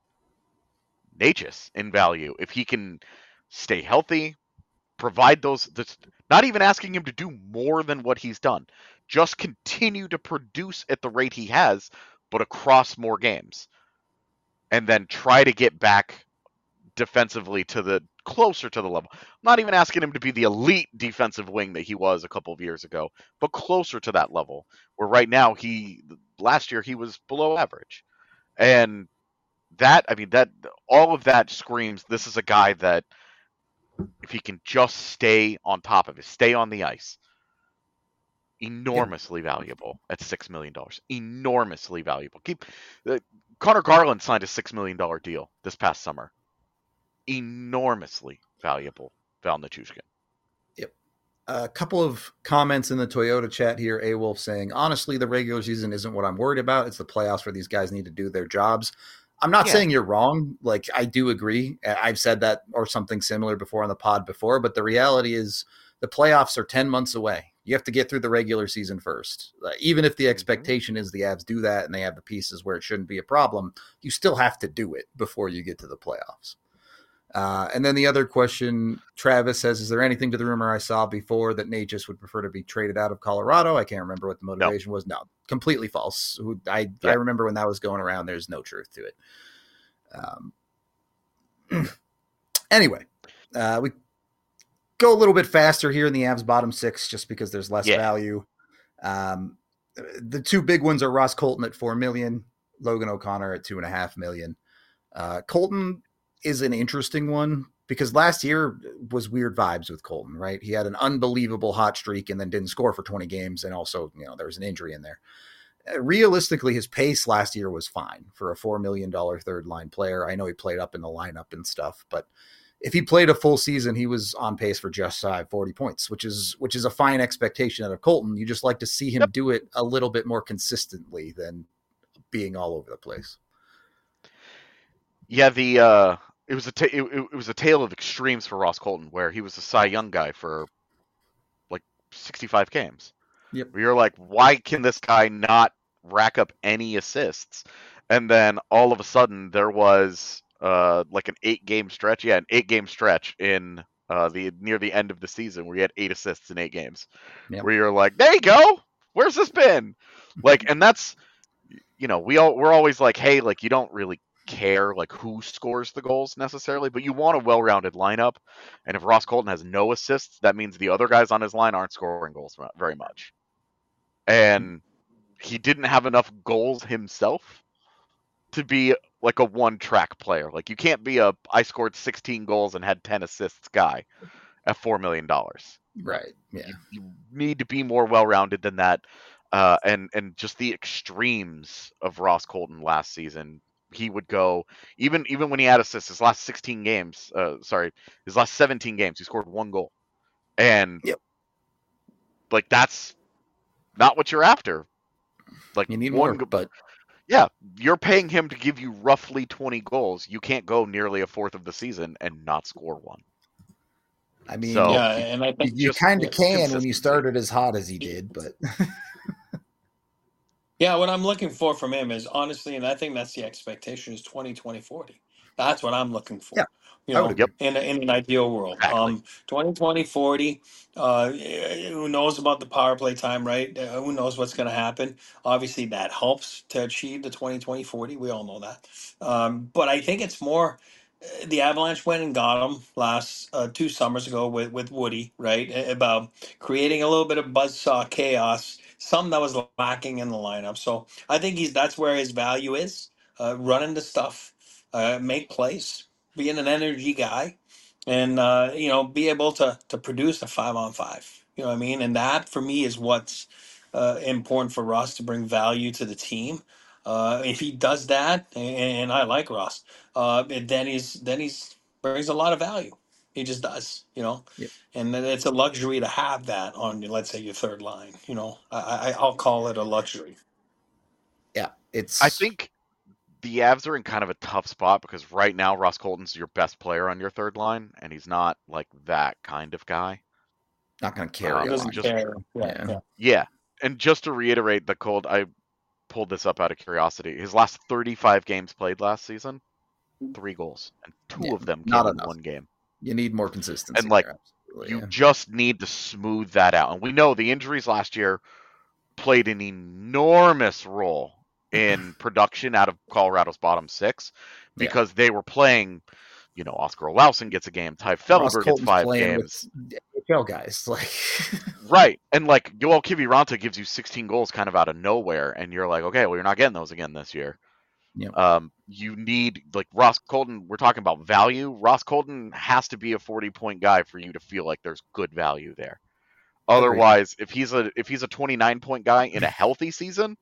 Natchez in value if he can stay healthy, provide those. This, not even asking him to do more than what he's done, just continue to produce at the rate he has, but across more games, and then try to get back defensively to the closer to the level. I'm not even asking him to be the elite defensive wing that he was a couple of years ago, but closer to that level. Where right now he last year he was below average, and that I mean that all of that screams this is a guy that if he can just stay on top of it, stay on the ice, enormously valuable at six million dollars. Enormously valuable. Keep uh, Connor Garland signed a six million dollar deal this past summer. Enormously valuable, Val Nichushkin. Yep. A couple of comments in the Toyota chat here. A Wolf saying, honestly, the regular season isn't what I'm worried about. It's the playoffs where these guys need to do their jobs. I'm not Yeah. saying you're wrong. Like, I do agree. I've said that or something similar before on the pod before, but the reality is the playoffs are ten months away. You have to get through the regular season first. Uh, even if the expectation is the Avs do that and they have the pieces where it shouldn't be a problem, you still have to do it before you get to the playoffs. Uh, and then the other question, Travis says, is there anything to the rumor I saw before that Natchez would prefer to be traded out of Colorado? I can't remember what the motivation no. was. No, completely false. I, yeah. I remember when that was going around. There's no truth to it. Um, anyway, uh, we go a little bit faster here in the Avs bottom six just because there's less yeah. value. Um, the two big ones are Ross Colton at four million dollars, Logan O'Connor at two point five million dollars. Uh, Colton is an interesting one because last year was weird vibes with Colton, right? He had an unbelievable hot streak and then didn't score for twenty games. And also, you know, there was an injury in there. Uh, realistically, his pace last year was fine for a four million dollars third line player. I know he played up in the lineup and stuff, but if he played a full season, he was on pace for just shy of forty points, which is, which is a fine expectation out of Colton. You just like to see him yep. do it a little bit more consistently than being all over the place. Yeah. The, uh, It was a ta- it, it was a tale of extremes for Ross Colton, where he was a Cy Young guy for like sixty-five games. Yep. Where you're like, why can this guy not rack up any assists? And then all of a sudden, there was uh, like an eight game stretch. Yeah, an eight game stretch in uh, the near the end of the season where he had eight assists in eight games. Yep. Where you're like, there you go. Where's this been? Like, and that's you know, we all we're always like, hey, like you don't really care like who scores the goals necessarily, but you want a well-rounded lineup. And if Ross Colton has no assists, that means the other guys on his line aren't scoring goals very much. And he didn't have enough goals himself to be like a one-track player. Like you can't be a I scored sixteen goals and had ten assists guy at four million dollars. Right. Yeah. You, you need to be more well-rounded than that. Uh, and and just the extremes of Ross Colton last season. He would go even even when he had assists. His last sixteen games, uh, sorry, his last seventeen games, he scored one goal, and yep. like that's not what you're after. Like you need one, more, but yeah, you're paying him to give you roughly twenty goals. You can't go nearly a fourth of the season and not score one. I mean, so, yeah, and I think you kind of can when you started as hot as he did, but. Yeah, what I'm looking for from him is honestly, and I think that's the expectation, is twenty twenty forty. That's what I'm looking for. Yeah, you know, yep. in, a, in an ideal world. Exactly. Um, twenty twenty forty, uh, who knows about the power play time, right? Uh, who knows what's going to happen? Obviously, that helps to achieve the twenty twenty forty. We all know that. Um, but I think it's more uh, the Avalanche went and got him last uh, two summers ago with, with Woody, right? A- About creating a little bit of buzzsaw chaos, something that was lacking in the lineup. So I think he's that's where his value is, uh, running the stuff, uh, make plays, being an energy guy, and uh, you know, be able to to produce a five on five. You know what I mean? And that for me is what's uh, important for Russ to bring value to the team. Uh, if he does that, and, and I like Russ, uh, then he's then he's brings a lot of value. He just does, you know. Yep. And then it's a luxury to have that on, let's say, your third line. You know, I, I I'll call it a luxury. Yeah, it's. I think the Avs are in kind of a tough spot because right now Ross Colton's your best player on your third line, and he's not like that kind of guy. Not going to carry. Um, a doesn't lot. just, carry. Yeah, Yeah. yeah. yeah, and just to reiterate, the cold. I pulled this up out of curiosity. His last thirty-five games played last season, three goals, and two Yeah, of them not came in enough. one game. You need more consistency. And like, there, absolutely, you yeah. just need to smooth that out. And we know the injuries last year played an enormous role in production out of Colorado's bottom six because yeah. they were playing, you know, Oscar Olausen gets a game, Ty Felber gets five games. With H L guys, like right. And like Joel Kiviranta gives you sixteen goals kind of out of nowhere, and you're like, okay, well, you're not getting those again this year. Yeah. Um, you need like Ross Colton. We're talking about value. Ross Colton has to be a forty point guy for you to feel like there's good value there. Otherwise, Agreed. if he's a if he's a twenty-nine point guy in a healthy season,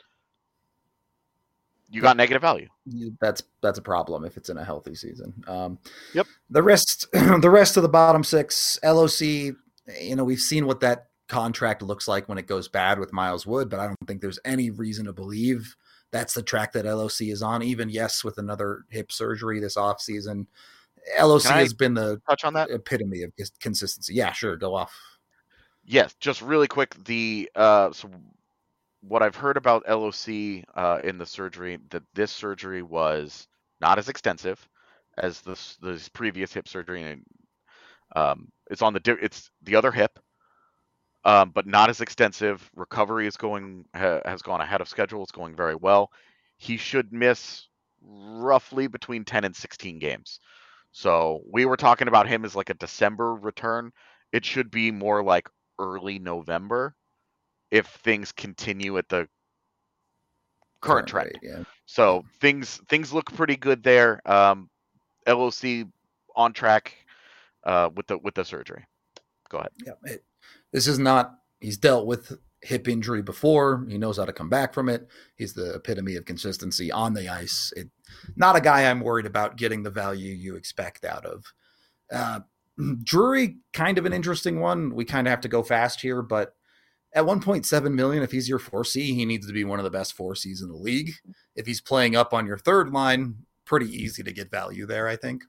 you got negative value. That's that's a problem if it's in a healthy season. Um, yep. The rest the rest of the bottom six, L O C. You know, we've seen what that contract looks like when it goes bad with Miles Wood, but I don't think there's any reason to believe that's the track that L O C is on. Even yes, with another hip surgery this offseason, L O C has been the touch on that epitome of consistency. Yeah, sure, go off. Yes, just really quick. The uh, so what I've heard about L O C uh, in the surgery, that this surgery was not as extensive as this this previous hip surgery, and um, it's on the it's the other hip. Um, but not as extensive. Recovery is going ha, has gone ahead of schedule. It's going very well. He should miss roughly between ten and sixteen games. So we were talking about him as like a December return. It should be more like early November if things continue at the current, current trend. Rate, yeah. So things things look pretty good there. Um, L O C on track uh, with the with the surgery. Go ahead. Yeah. It, This is not, he's dealt with hip injury before. He knows how to come back from it. He's the epitome of consistency on the ice. It, not a guy I'm worried about getting the value you expect out of. Uh, Drury, kind of an interesting one. We kind of have to go fast here, but at one point seven million, if he's your four C, he needs to be one of the best four Cs in the league. If he's playing up on your third line, pretty easy to get value there, I think.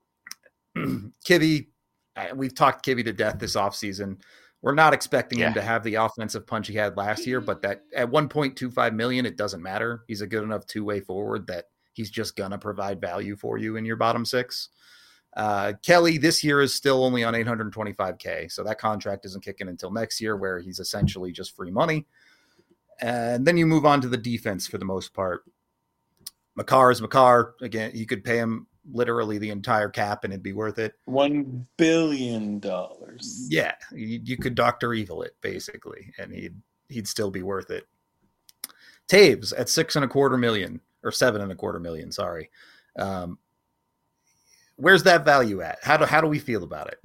Kivy, we've talked Kivy to death this offseason. We're not expecting yeah. him to have the offensive punch he had last year, but that at one point two five million, it doesn't matter. He's a good enough two-way forward that he's just going to provide value for you in your bottom six. Uh, Kelly this year is still only on eight hundred twenty-five K. So that contract isn't kicking until next year where he's essentially just free money. And then you move on to the defense for the most part. Makar is Makar. Again, you could pay him literally the entire cap and it'd be worth it. One billion dollars. Yeah, you, you could Doctor Evil it basically, and he'd he'd still be worth it. Taves at six and a quarter million or seven and a quarter million. Sorry, um, where's that value at? How do how do we feel about it?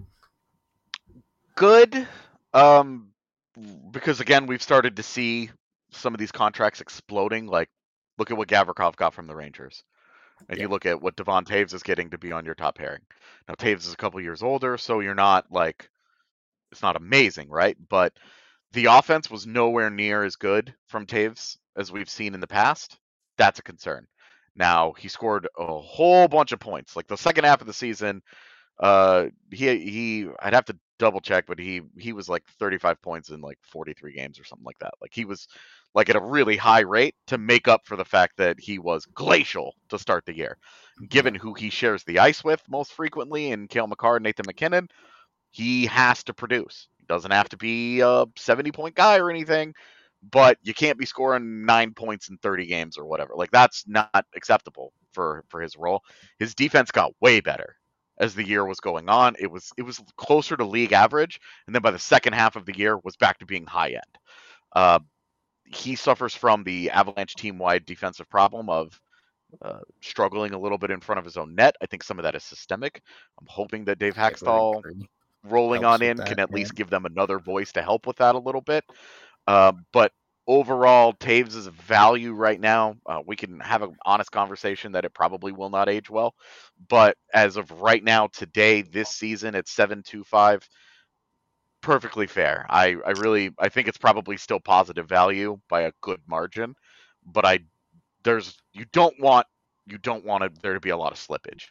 Good, um, because again, we've started to see some of these contracts exploding. Like, look at what Gavrikov got from the Rangers. And Yeah. you look at what Devon Taves is getting to be on your top pairing. Now, Taves is a couple years older, so you're not like, it's not amazing, right? But the offense was nowhere near as good from Taves as we've seen in the past. That's a concern. Now, he scored a whole bunch of points. Like the second half of the season, uh, he he I'd have to double check, but he he was like thirty-five points in like forty-three games or something like that. Like he was like at a really high rate to make up for the fact that he was glacial to start the year. Given who he shares the ice with most frequently in Cale Makar and Nathan MacKinnon, he has to produce. He doesn't have to be a seventy-point guy or anything, but you can't be scoring nine points in thirty games or whatever. Like that's not acceptable for for his role. His defense got way better as the year was going on. It was it was closer to league average, and then by the second half of the year was back to being high end. Uh, he suffers from the Avalanche team-wide defensive problem of uh, struggling a little bit in front of his own net. I think some of that is systemic. I'm hoping that Dave Hackstall rolling Helps on with in that, can at yeah. least give them another voice to help with that a little bit. Uh, but overall, Taves is a value right now. Uh, we can have an honest conversation that it probably will not age well. But as of right now, today, this season at seven two five, perfectly fair. I, I really I think it's probably still positive value by a good margin. But I there's you don't want you don't want it, there to be a lot of slippage.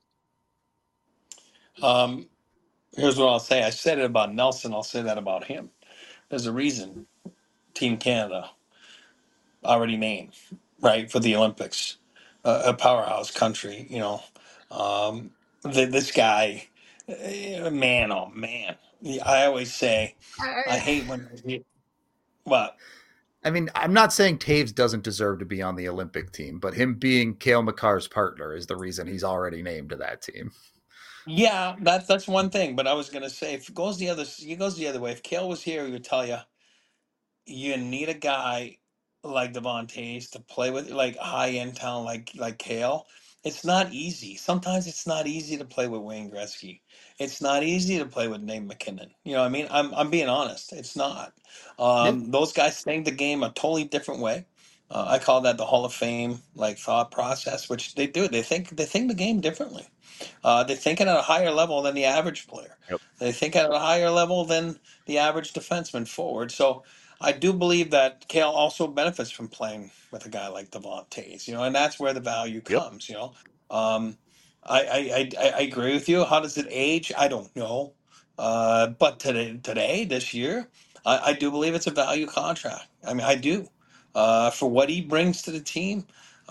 Um, here's what I'll say. I said it about Nelson. I'll say that about him. There's a reason Team Canada already named, right, for the Olympics. Uh, a powerhouse country, you know. Um, th- this guy, eh, man, oh man. I always say, I hate when, what? I mean, I'm not saying Taves doesn't deserve to be on the Olympic team, but him being Cale Makar's partner is the reason he's already named to that team. Yeah, that's that's one thing. But I was gonna say, if it goes the other, it goes the other way. If Kale was here, he would tell you, you need a guy like Devon Taves to play with, like high end talent, like like Kale. It's not easy. Sometimes it's not easy to play with Wayne Gretzky. It's not easy to play with Nate MacKinnon. You know what I mean? I'm I'm being honest. It's not. Yeah. Um, those guys think the game a totally different way. Uh, I call that the Hall of Fame like thought process, which they do. They think they think the game differently. Uh, they think it at a higher level than the average player. Yep. They think at a higher level than the average defenseman forward. So I do believe that Kale also benefits from playing with a guy like Devon Taves, you know, and that's where the value Yep. comes, you know. Um, I, I, I, I agree with you. How does it age? I don't know. Uh, but today, today, this year, I, I do believe it's a value contract. I mean, I do. Uh, for what he brings to the team.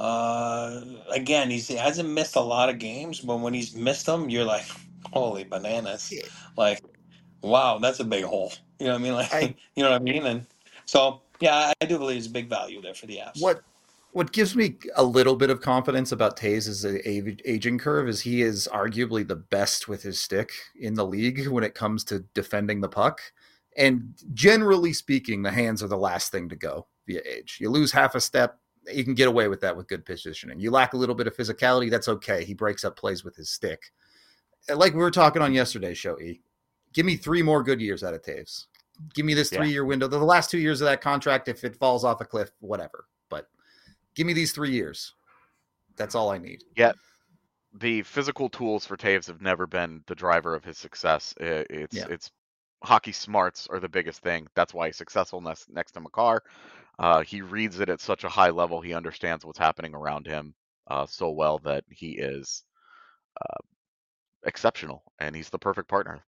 Uh, again, he's, he hasn't missed a lot of games, but when he's missed them, you're like, holy bananas. Like, wow, that's a big hole. You know what I mean? Like, I you know what I mean? And so, yeah, I, I do believe there's a big value there for the Avs. what what gives me a little bit of confidence about Taves' aging curve is he is arguably the best with his stick in the league when it comes to defending the puck. And generally speaking, the hands are the last thing to go via age. You lose half a step, you can get away with that with good positioning. You lack a little bit of physicality, that's okay. He breaks up plays with his stick. Like we were talking on yesterday's show, E. Give me three more good years out of Taves. Give me this Yeah. three-year window. The last two years of that contract, if it falls off a cliff, whatever. But give me these three years. That's all I need. Yeah. The physical tools for Taves have never been the driver of his success. I- It's Yeah. it's hockey smarts are the biggest thing. That's why he's successful next, next to Makar. Uh, he reads it at such a high level. He understands what's happening around him uh, so well that he is uh, exceptional, and he's the perfect partner.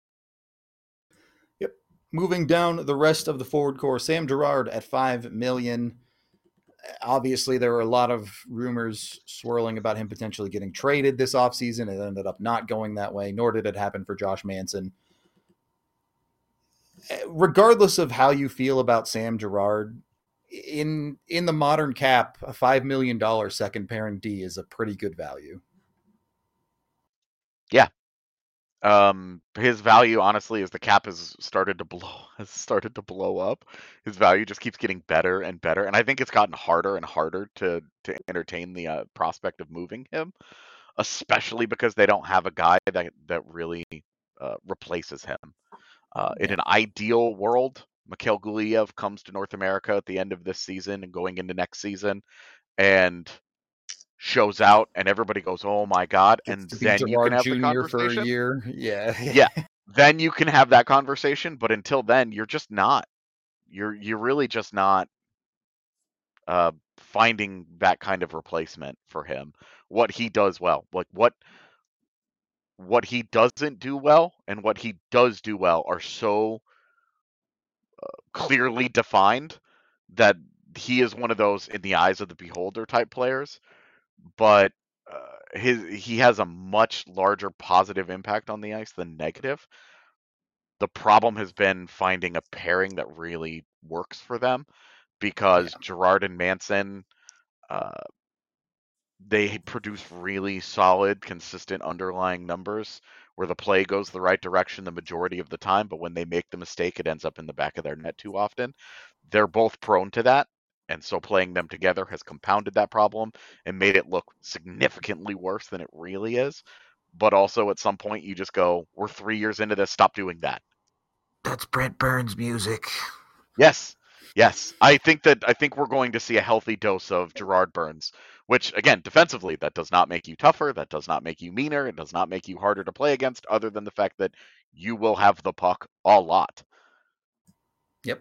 Yep. Moving down the rest of the forward core, Sam Girard at five million dollars. Obviously, there were a lot of rumors swirling about him potentially getting traded this offseason. It ended up not going that way, nor did it happen for Josh Manson. Regardless of how you feel about Sam Girard, in in the modern cap, a five million dollar second pairing D is a pretty good value. Yeah. Um, his value, honestly, as the cap has started to blow, has started to blow up. His value just keeps getting better and better, and I think it's gotten harder and harder to to entertain the uh, prospect of moving him, especially because they don't have a guy that that really uh, replaces him. Uh, in Yeah. an ideal world, Mikhail Guliev comes to North America at the end of this season and going into next season, and shows out, and everybody goes, "Oh my god!" Gets And to be then you can Gerard have the Junior for a conversation. year. Yeah. Yeah, then you can have that conversation. But until then, you're just not. You're you're really just not uh, finding that kind of replacement for him. What he does well, like what what he doesn't do well, and what he does do well, are so clearly defined that he is one of those in the eyes of the beholder type players. But uh, his he has a much larger positive impact on the ice than negative. The problem has been finding a pairing that really works for them, because Yeah. Gerard and Manson, uh, they produce really solid, consistent underlying numbers where the play goes the right direction the majority of the time, but when they make the mistake, it ends up in the back of their net too often. They're both prone to that, and so playing them together has compounded that problem and made it look significantly worse than it really is. But also, at some point, you just go, "We're three years into this. Stop doing that." That's Brent Burns music. Yes, yes. I think that I think we're going to see a healthy dose of Gerard Burns, which, again, defensively, that does not make you tougher. That does not make you meaner. It does not make you harder to play against, other than the fact that you will have the puck a lot. Yep.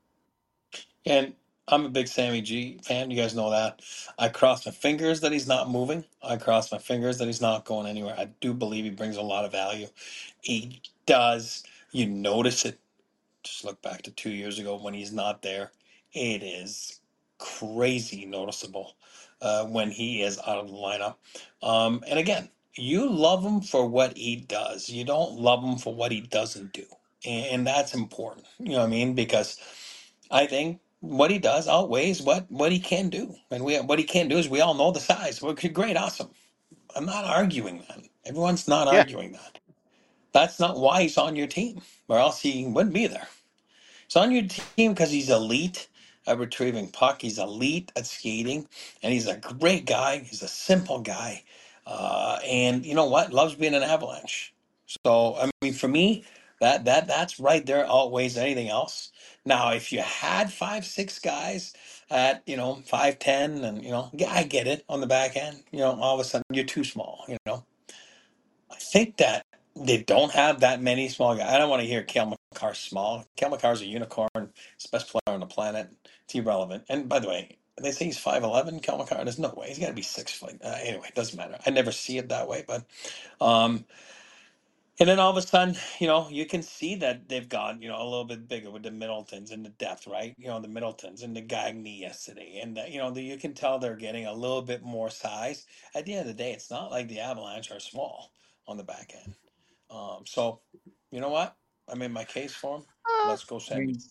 And I'm a big Sammy G fan. You guys know that. I cross my fingers that he's not moving. I cross my fingers that he's not going anywhere. I do believe he brings a lot of value. He does. You notice it. Just look back to two years ago when he's not there. It is crazy noticeable uh, when he is out of the lineup. Um, and again, you love him for what he does. You don't love him for what he doesn't do. And, and that's important. You know what I mean? Because I think what he does outweighs what, what he can do. And we what he can do is we all know the size. Well, great, awesome. I'm not arguing that. Everyone's not Yeah, arguing that. That's not why he's on your team, or else he wouldn't be there. He's on your team because he's elite at retrieving puck. He's elite at skating, and he's a great guy. He's a simple guy, uh, and you know what? Loves being an Avalanche. So I mean, for me, that that that's right there outweighs anything else. Now, if you had five, six guys at you know five, ten, and you know, yeah, I get it on the back end. You know, all of a sudden you're too small. You know, I think that they don't have that many small guys. I don't want to hear Cale Makar small. Cale Makar's a unicorn. He's the best player on the planet. It's irrelevant. And by the way, they say he's five eleven, Cale Makar. There's no way. He's got to be six foot. Uh, anyway, it doesn't matter. I never see it that way. But, um, and then all of a sudden, you know, you can see that they've gone, you know, a little bit bigger with the Middletons and the depth, right? You know, the Middletons and the Gagny yesterday. And, the, you know, the, you can tell they're getting a little bit more size. At the end of the day, it's not like the Avalanche are small on the back end. Um, so, you know what? I made my case for him. uh, Let's go, I Sammy. mean,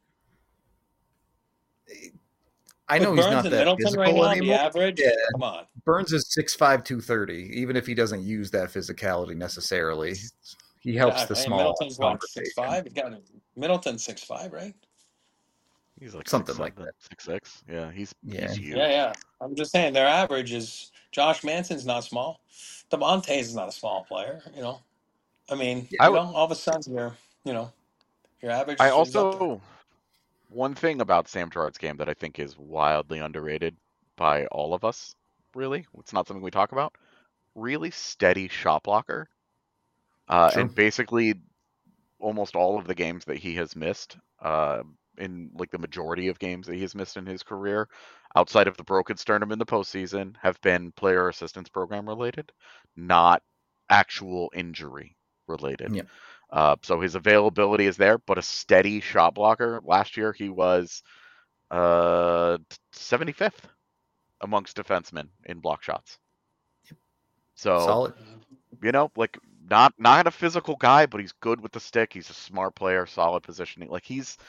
I know With he's Burns not and that Middleton right physical now, the anymore. average, Yeah. come on. Burns is six five, two thirty, even if he doesn't use that physicality necessarily. He helps Yeah, the hey, small Middleton's what, six conversation. five? Got Middleton six five, right? he's like Something six like seven, that. six six. Yeah, he's Yeah. he's Yeah, huge. yeah. I'm just saying their average is Josh Manson's not small. Devontae is not a small player, you know. I mean, Yeah. I you would. know, all of a sudden your, you know, your average I is, is up there. also, one thing about Sam Gerard's game that I think is wildly underrated by all of us. Really, it's not something we talk about. Really steady shot blocker, uh, True. and basically almost all of the games that he has missed, uh, in like the majority of games that he has missed in his career, outside of the broken sternum in the postseason, have been player assistance program related, not actual injury related. Yeah. Uh, so his availability is there, but a steady shot blocker. Last year he was uh, seventy-fifth amongst defensemen in block shots. So, Solid. you know, like not not a physical guy, but he's good with the stick. He's a smart player, solid positioning. Like he's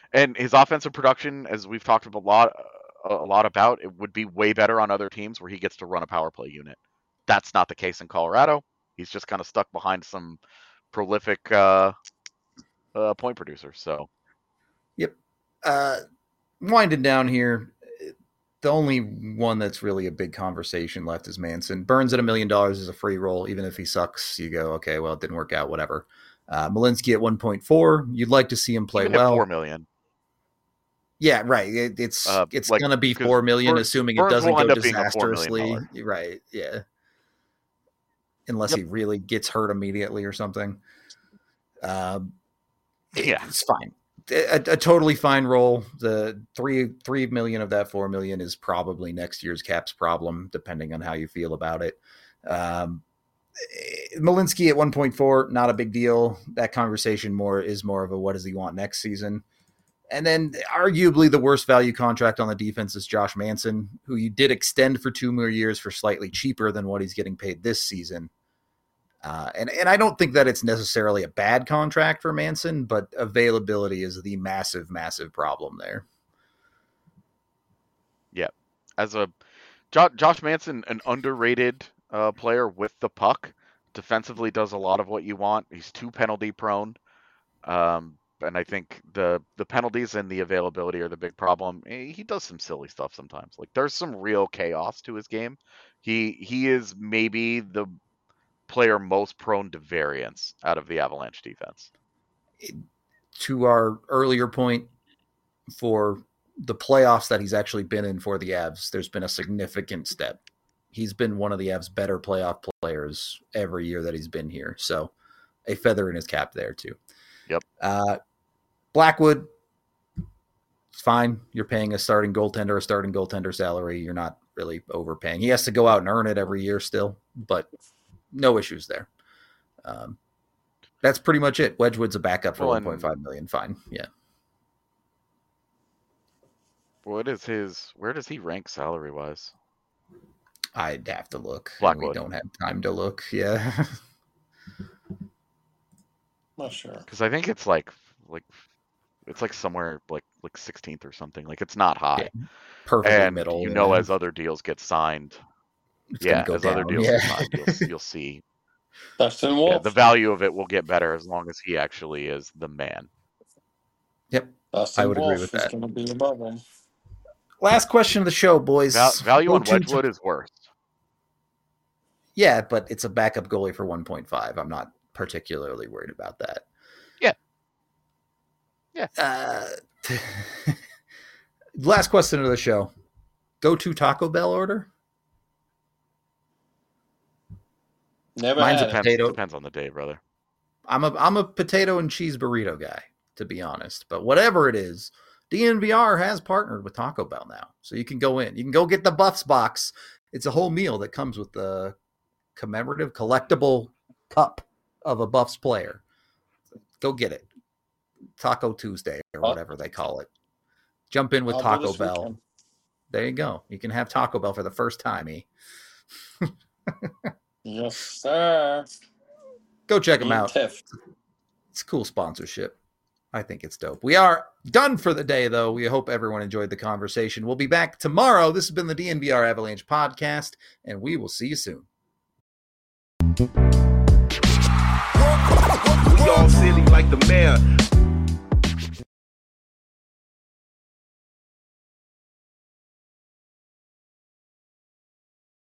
And his offensive production, as we've talked a lot, a lot about, it would be way better on other teams where he gets to run a power play unit. That's not the case in Colorado. He's just kind of stuck behind some prolific uh, uh, point producers. So, yep. Uh, winding down here, the only one that's really a big conversation left is Manson. Burns at a million dollars is a free roll. Even if he sucks, you go, okay, well, it didn't work out, whatever. Uh, Malinsky at one point four, you'd like to see him play even well. at four million. Yeah, right. It, it's Uh, it's like, going to be because four million, Burns- assuming Burns it doesn't will end go up being a four million disastrously. dollar. Right, yeah. Unless Yep. he really gets hurt immediately or something. Um, it- Yeah. It's fine. A, a totally fine role. The three three million of that four million is probably next year's Caps problem, depending on how you feel about it. Um, Malinsky at one point four, not a big deal. That conversation more is more of a what does he want next season. And then arguably the worst value contract on the defense is Josh Manson, who you did extend for two more years for slightly cheaper than what he's getting paid this season. Uh, and, and I don't think that it's necessarily a bad contract for Manson, but availability is the massive, massive problem there. Yeah. As a jo- Josh Manson, an underrated uh, player with the puck, defensively does a lot of what you want. He's too penalty prone. Um, and I think the the penalties and the availability are the big problem. He does some silly stuff sometimes. Like there's some real chaos to his game. He he is maybe the player most prone to variance out of the Avalanche defense. To our earlier point, for the playoffs that he's actually been in for the Avs, there's been a significant step. He's been one of the Avs' better playoff players every year that he's been here. So a feather in his cap there too. Yep. Uh, Blackwood, it's fine. You're paying a starting goaltender a starting goaltender salary. You're not really overpaying. He has to go out and earn it every year still, but no issues there. Um, that's pretty much it. Wedgwood's a backup for Well, one and- point five million. Fine. Yeah. What is his? Where does he rank salary wise? I'd have to look. and Blackwood. We don't have time to look. Yeah. Not sure. Because I think it's like like it's like somewhere like like sixteenth or something. Like it's not high. Perfectly And middle. you know, yeah. as other deals get signed, It's gonna yeah, go as other down. deals Yeah. get signed, you'll, you'll see Dustin yeah, Wolf. the value of it will get better as long as he actually is the man. Yep. Dustin I would agree Wolf with is that. going to be above him. Last question of the show, boys. Val- value Go on to- Wedgwood is worse. Yeah, but it's a backup goalie for one point five. I'm not particularly worried about that. Yeah. Yeah. Uh, last question of the show. Go to Taco Bell order? Never Mine's had a it. Depends, potato. depends on the day, brother. I'm a I'm a potato and cheese burrito guy, to be honest. But whatever it is, D N V R has partnered with Taco Bell now. So you can go in. You can go get the Buffs box. It's a whole meal that comes with the commemorative collectible cup of a Buffs player. Go get it. Taco Tuesday or Oh. whatever they call it. Jump in with I'll do Taco this Bell. weekend. There you go. You can have Taco Bell for the first time, E. Yes, sir. Go check them Me and out. Tiff. It's cool sponsorship. I think it's dope. We are done for the day, though. We hope everyone enjoyed the conversation. We'll be back tomorrow. This has been the D N V R Avalanche podcast, and we will see you soon. We all silly like the mayor.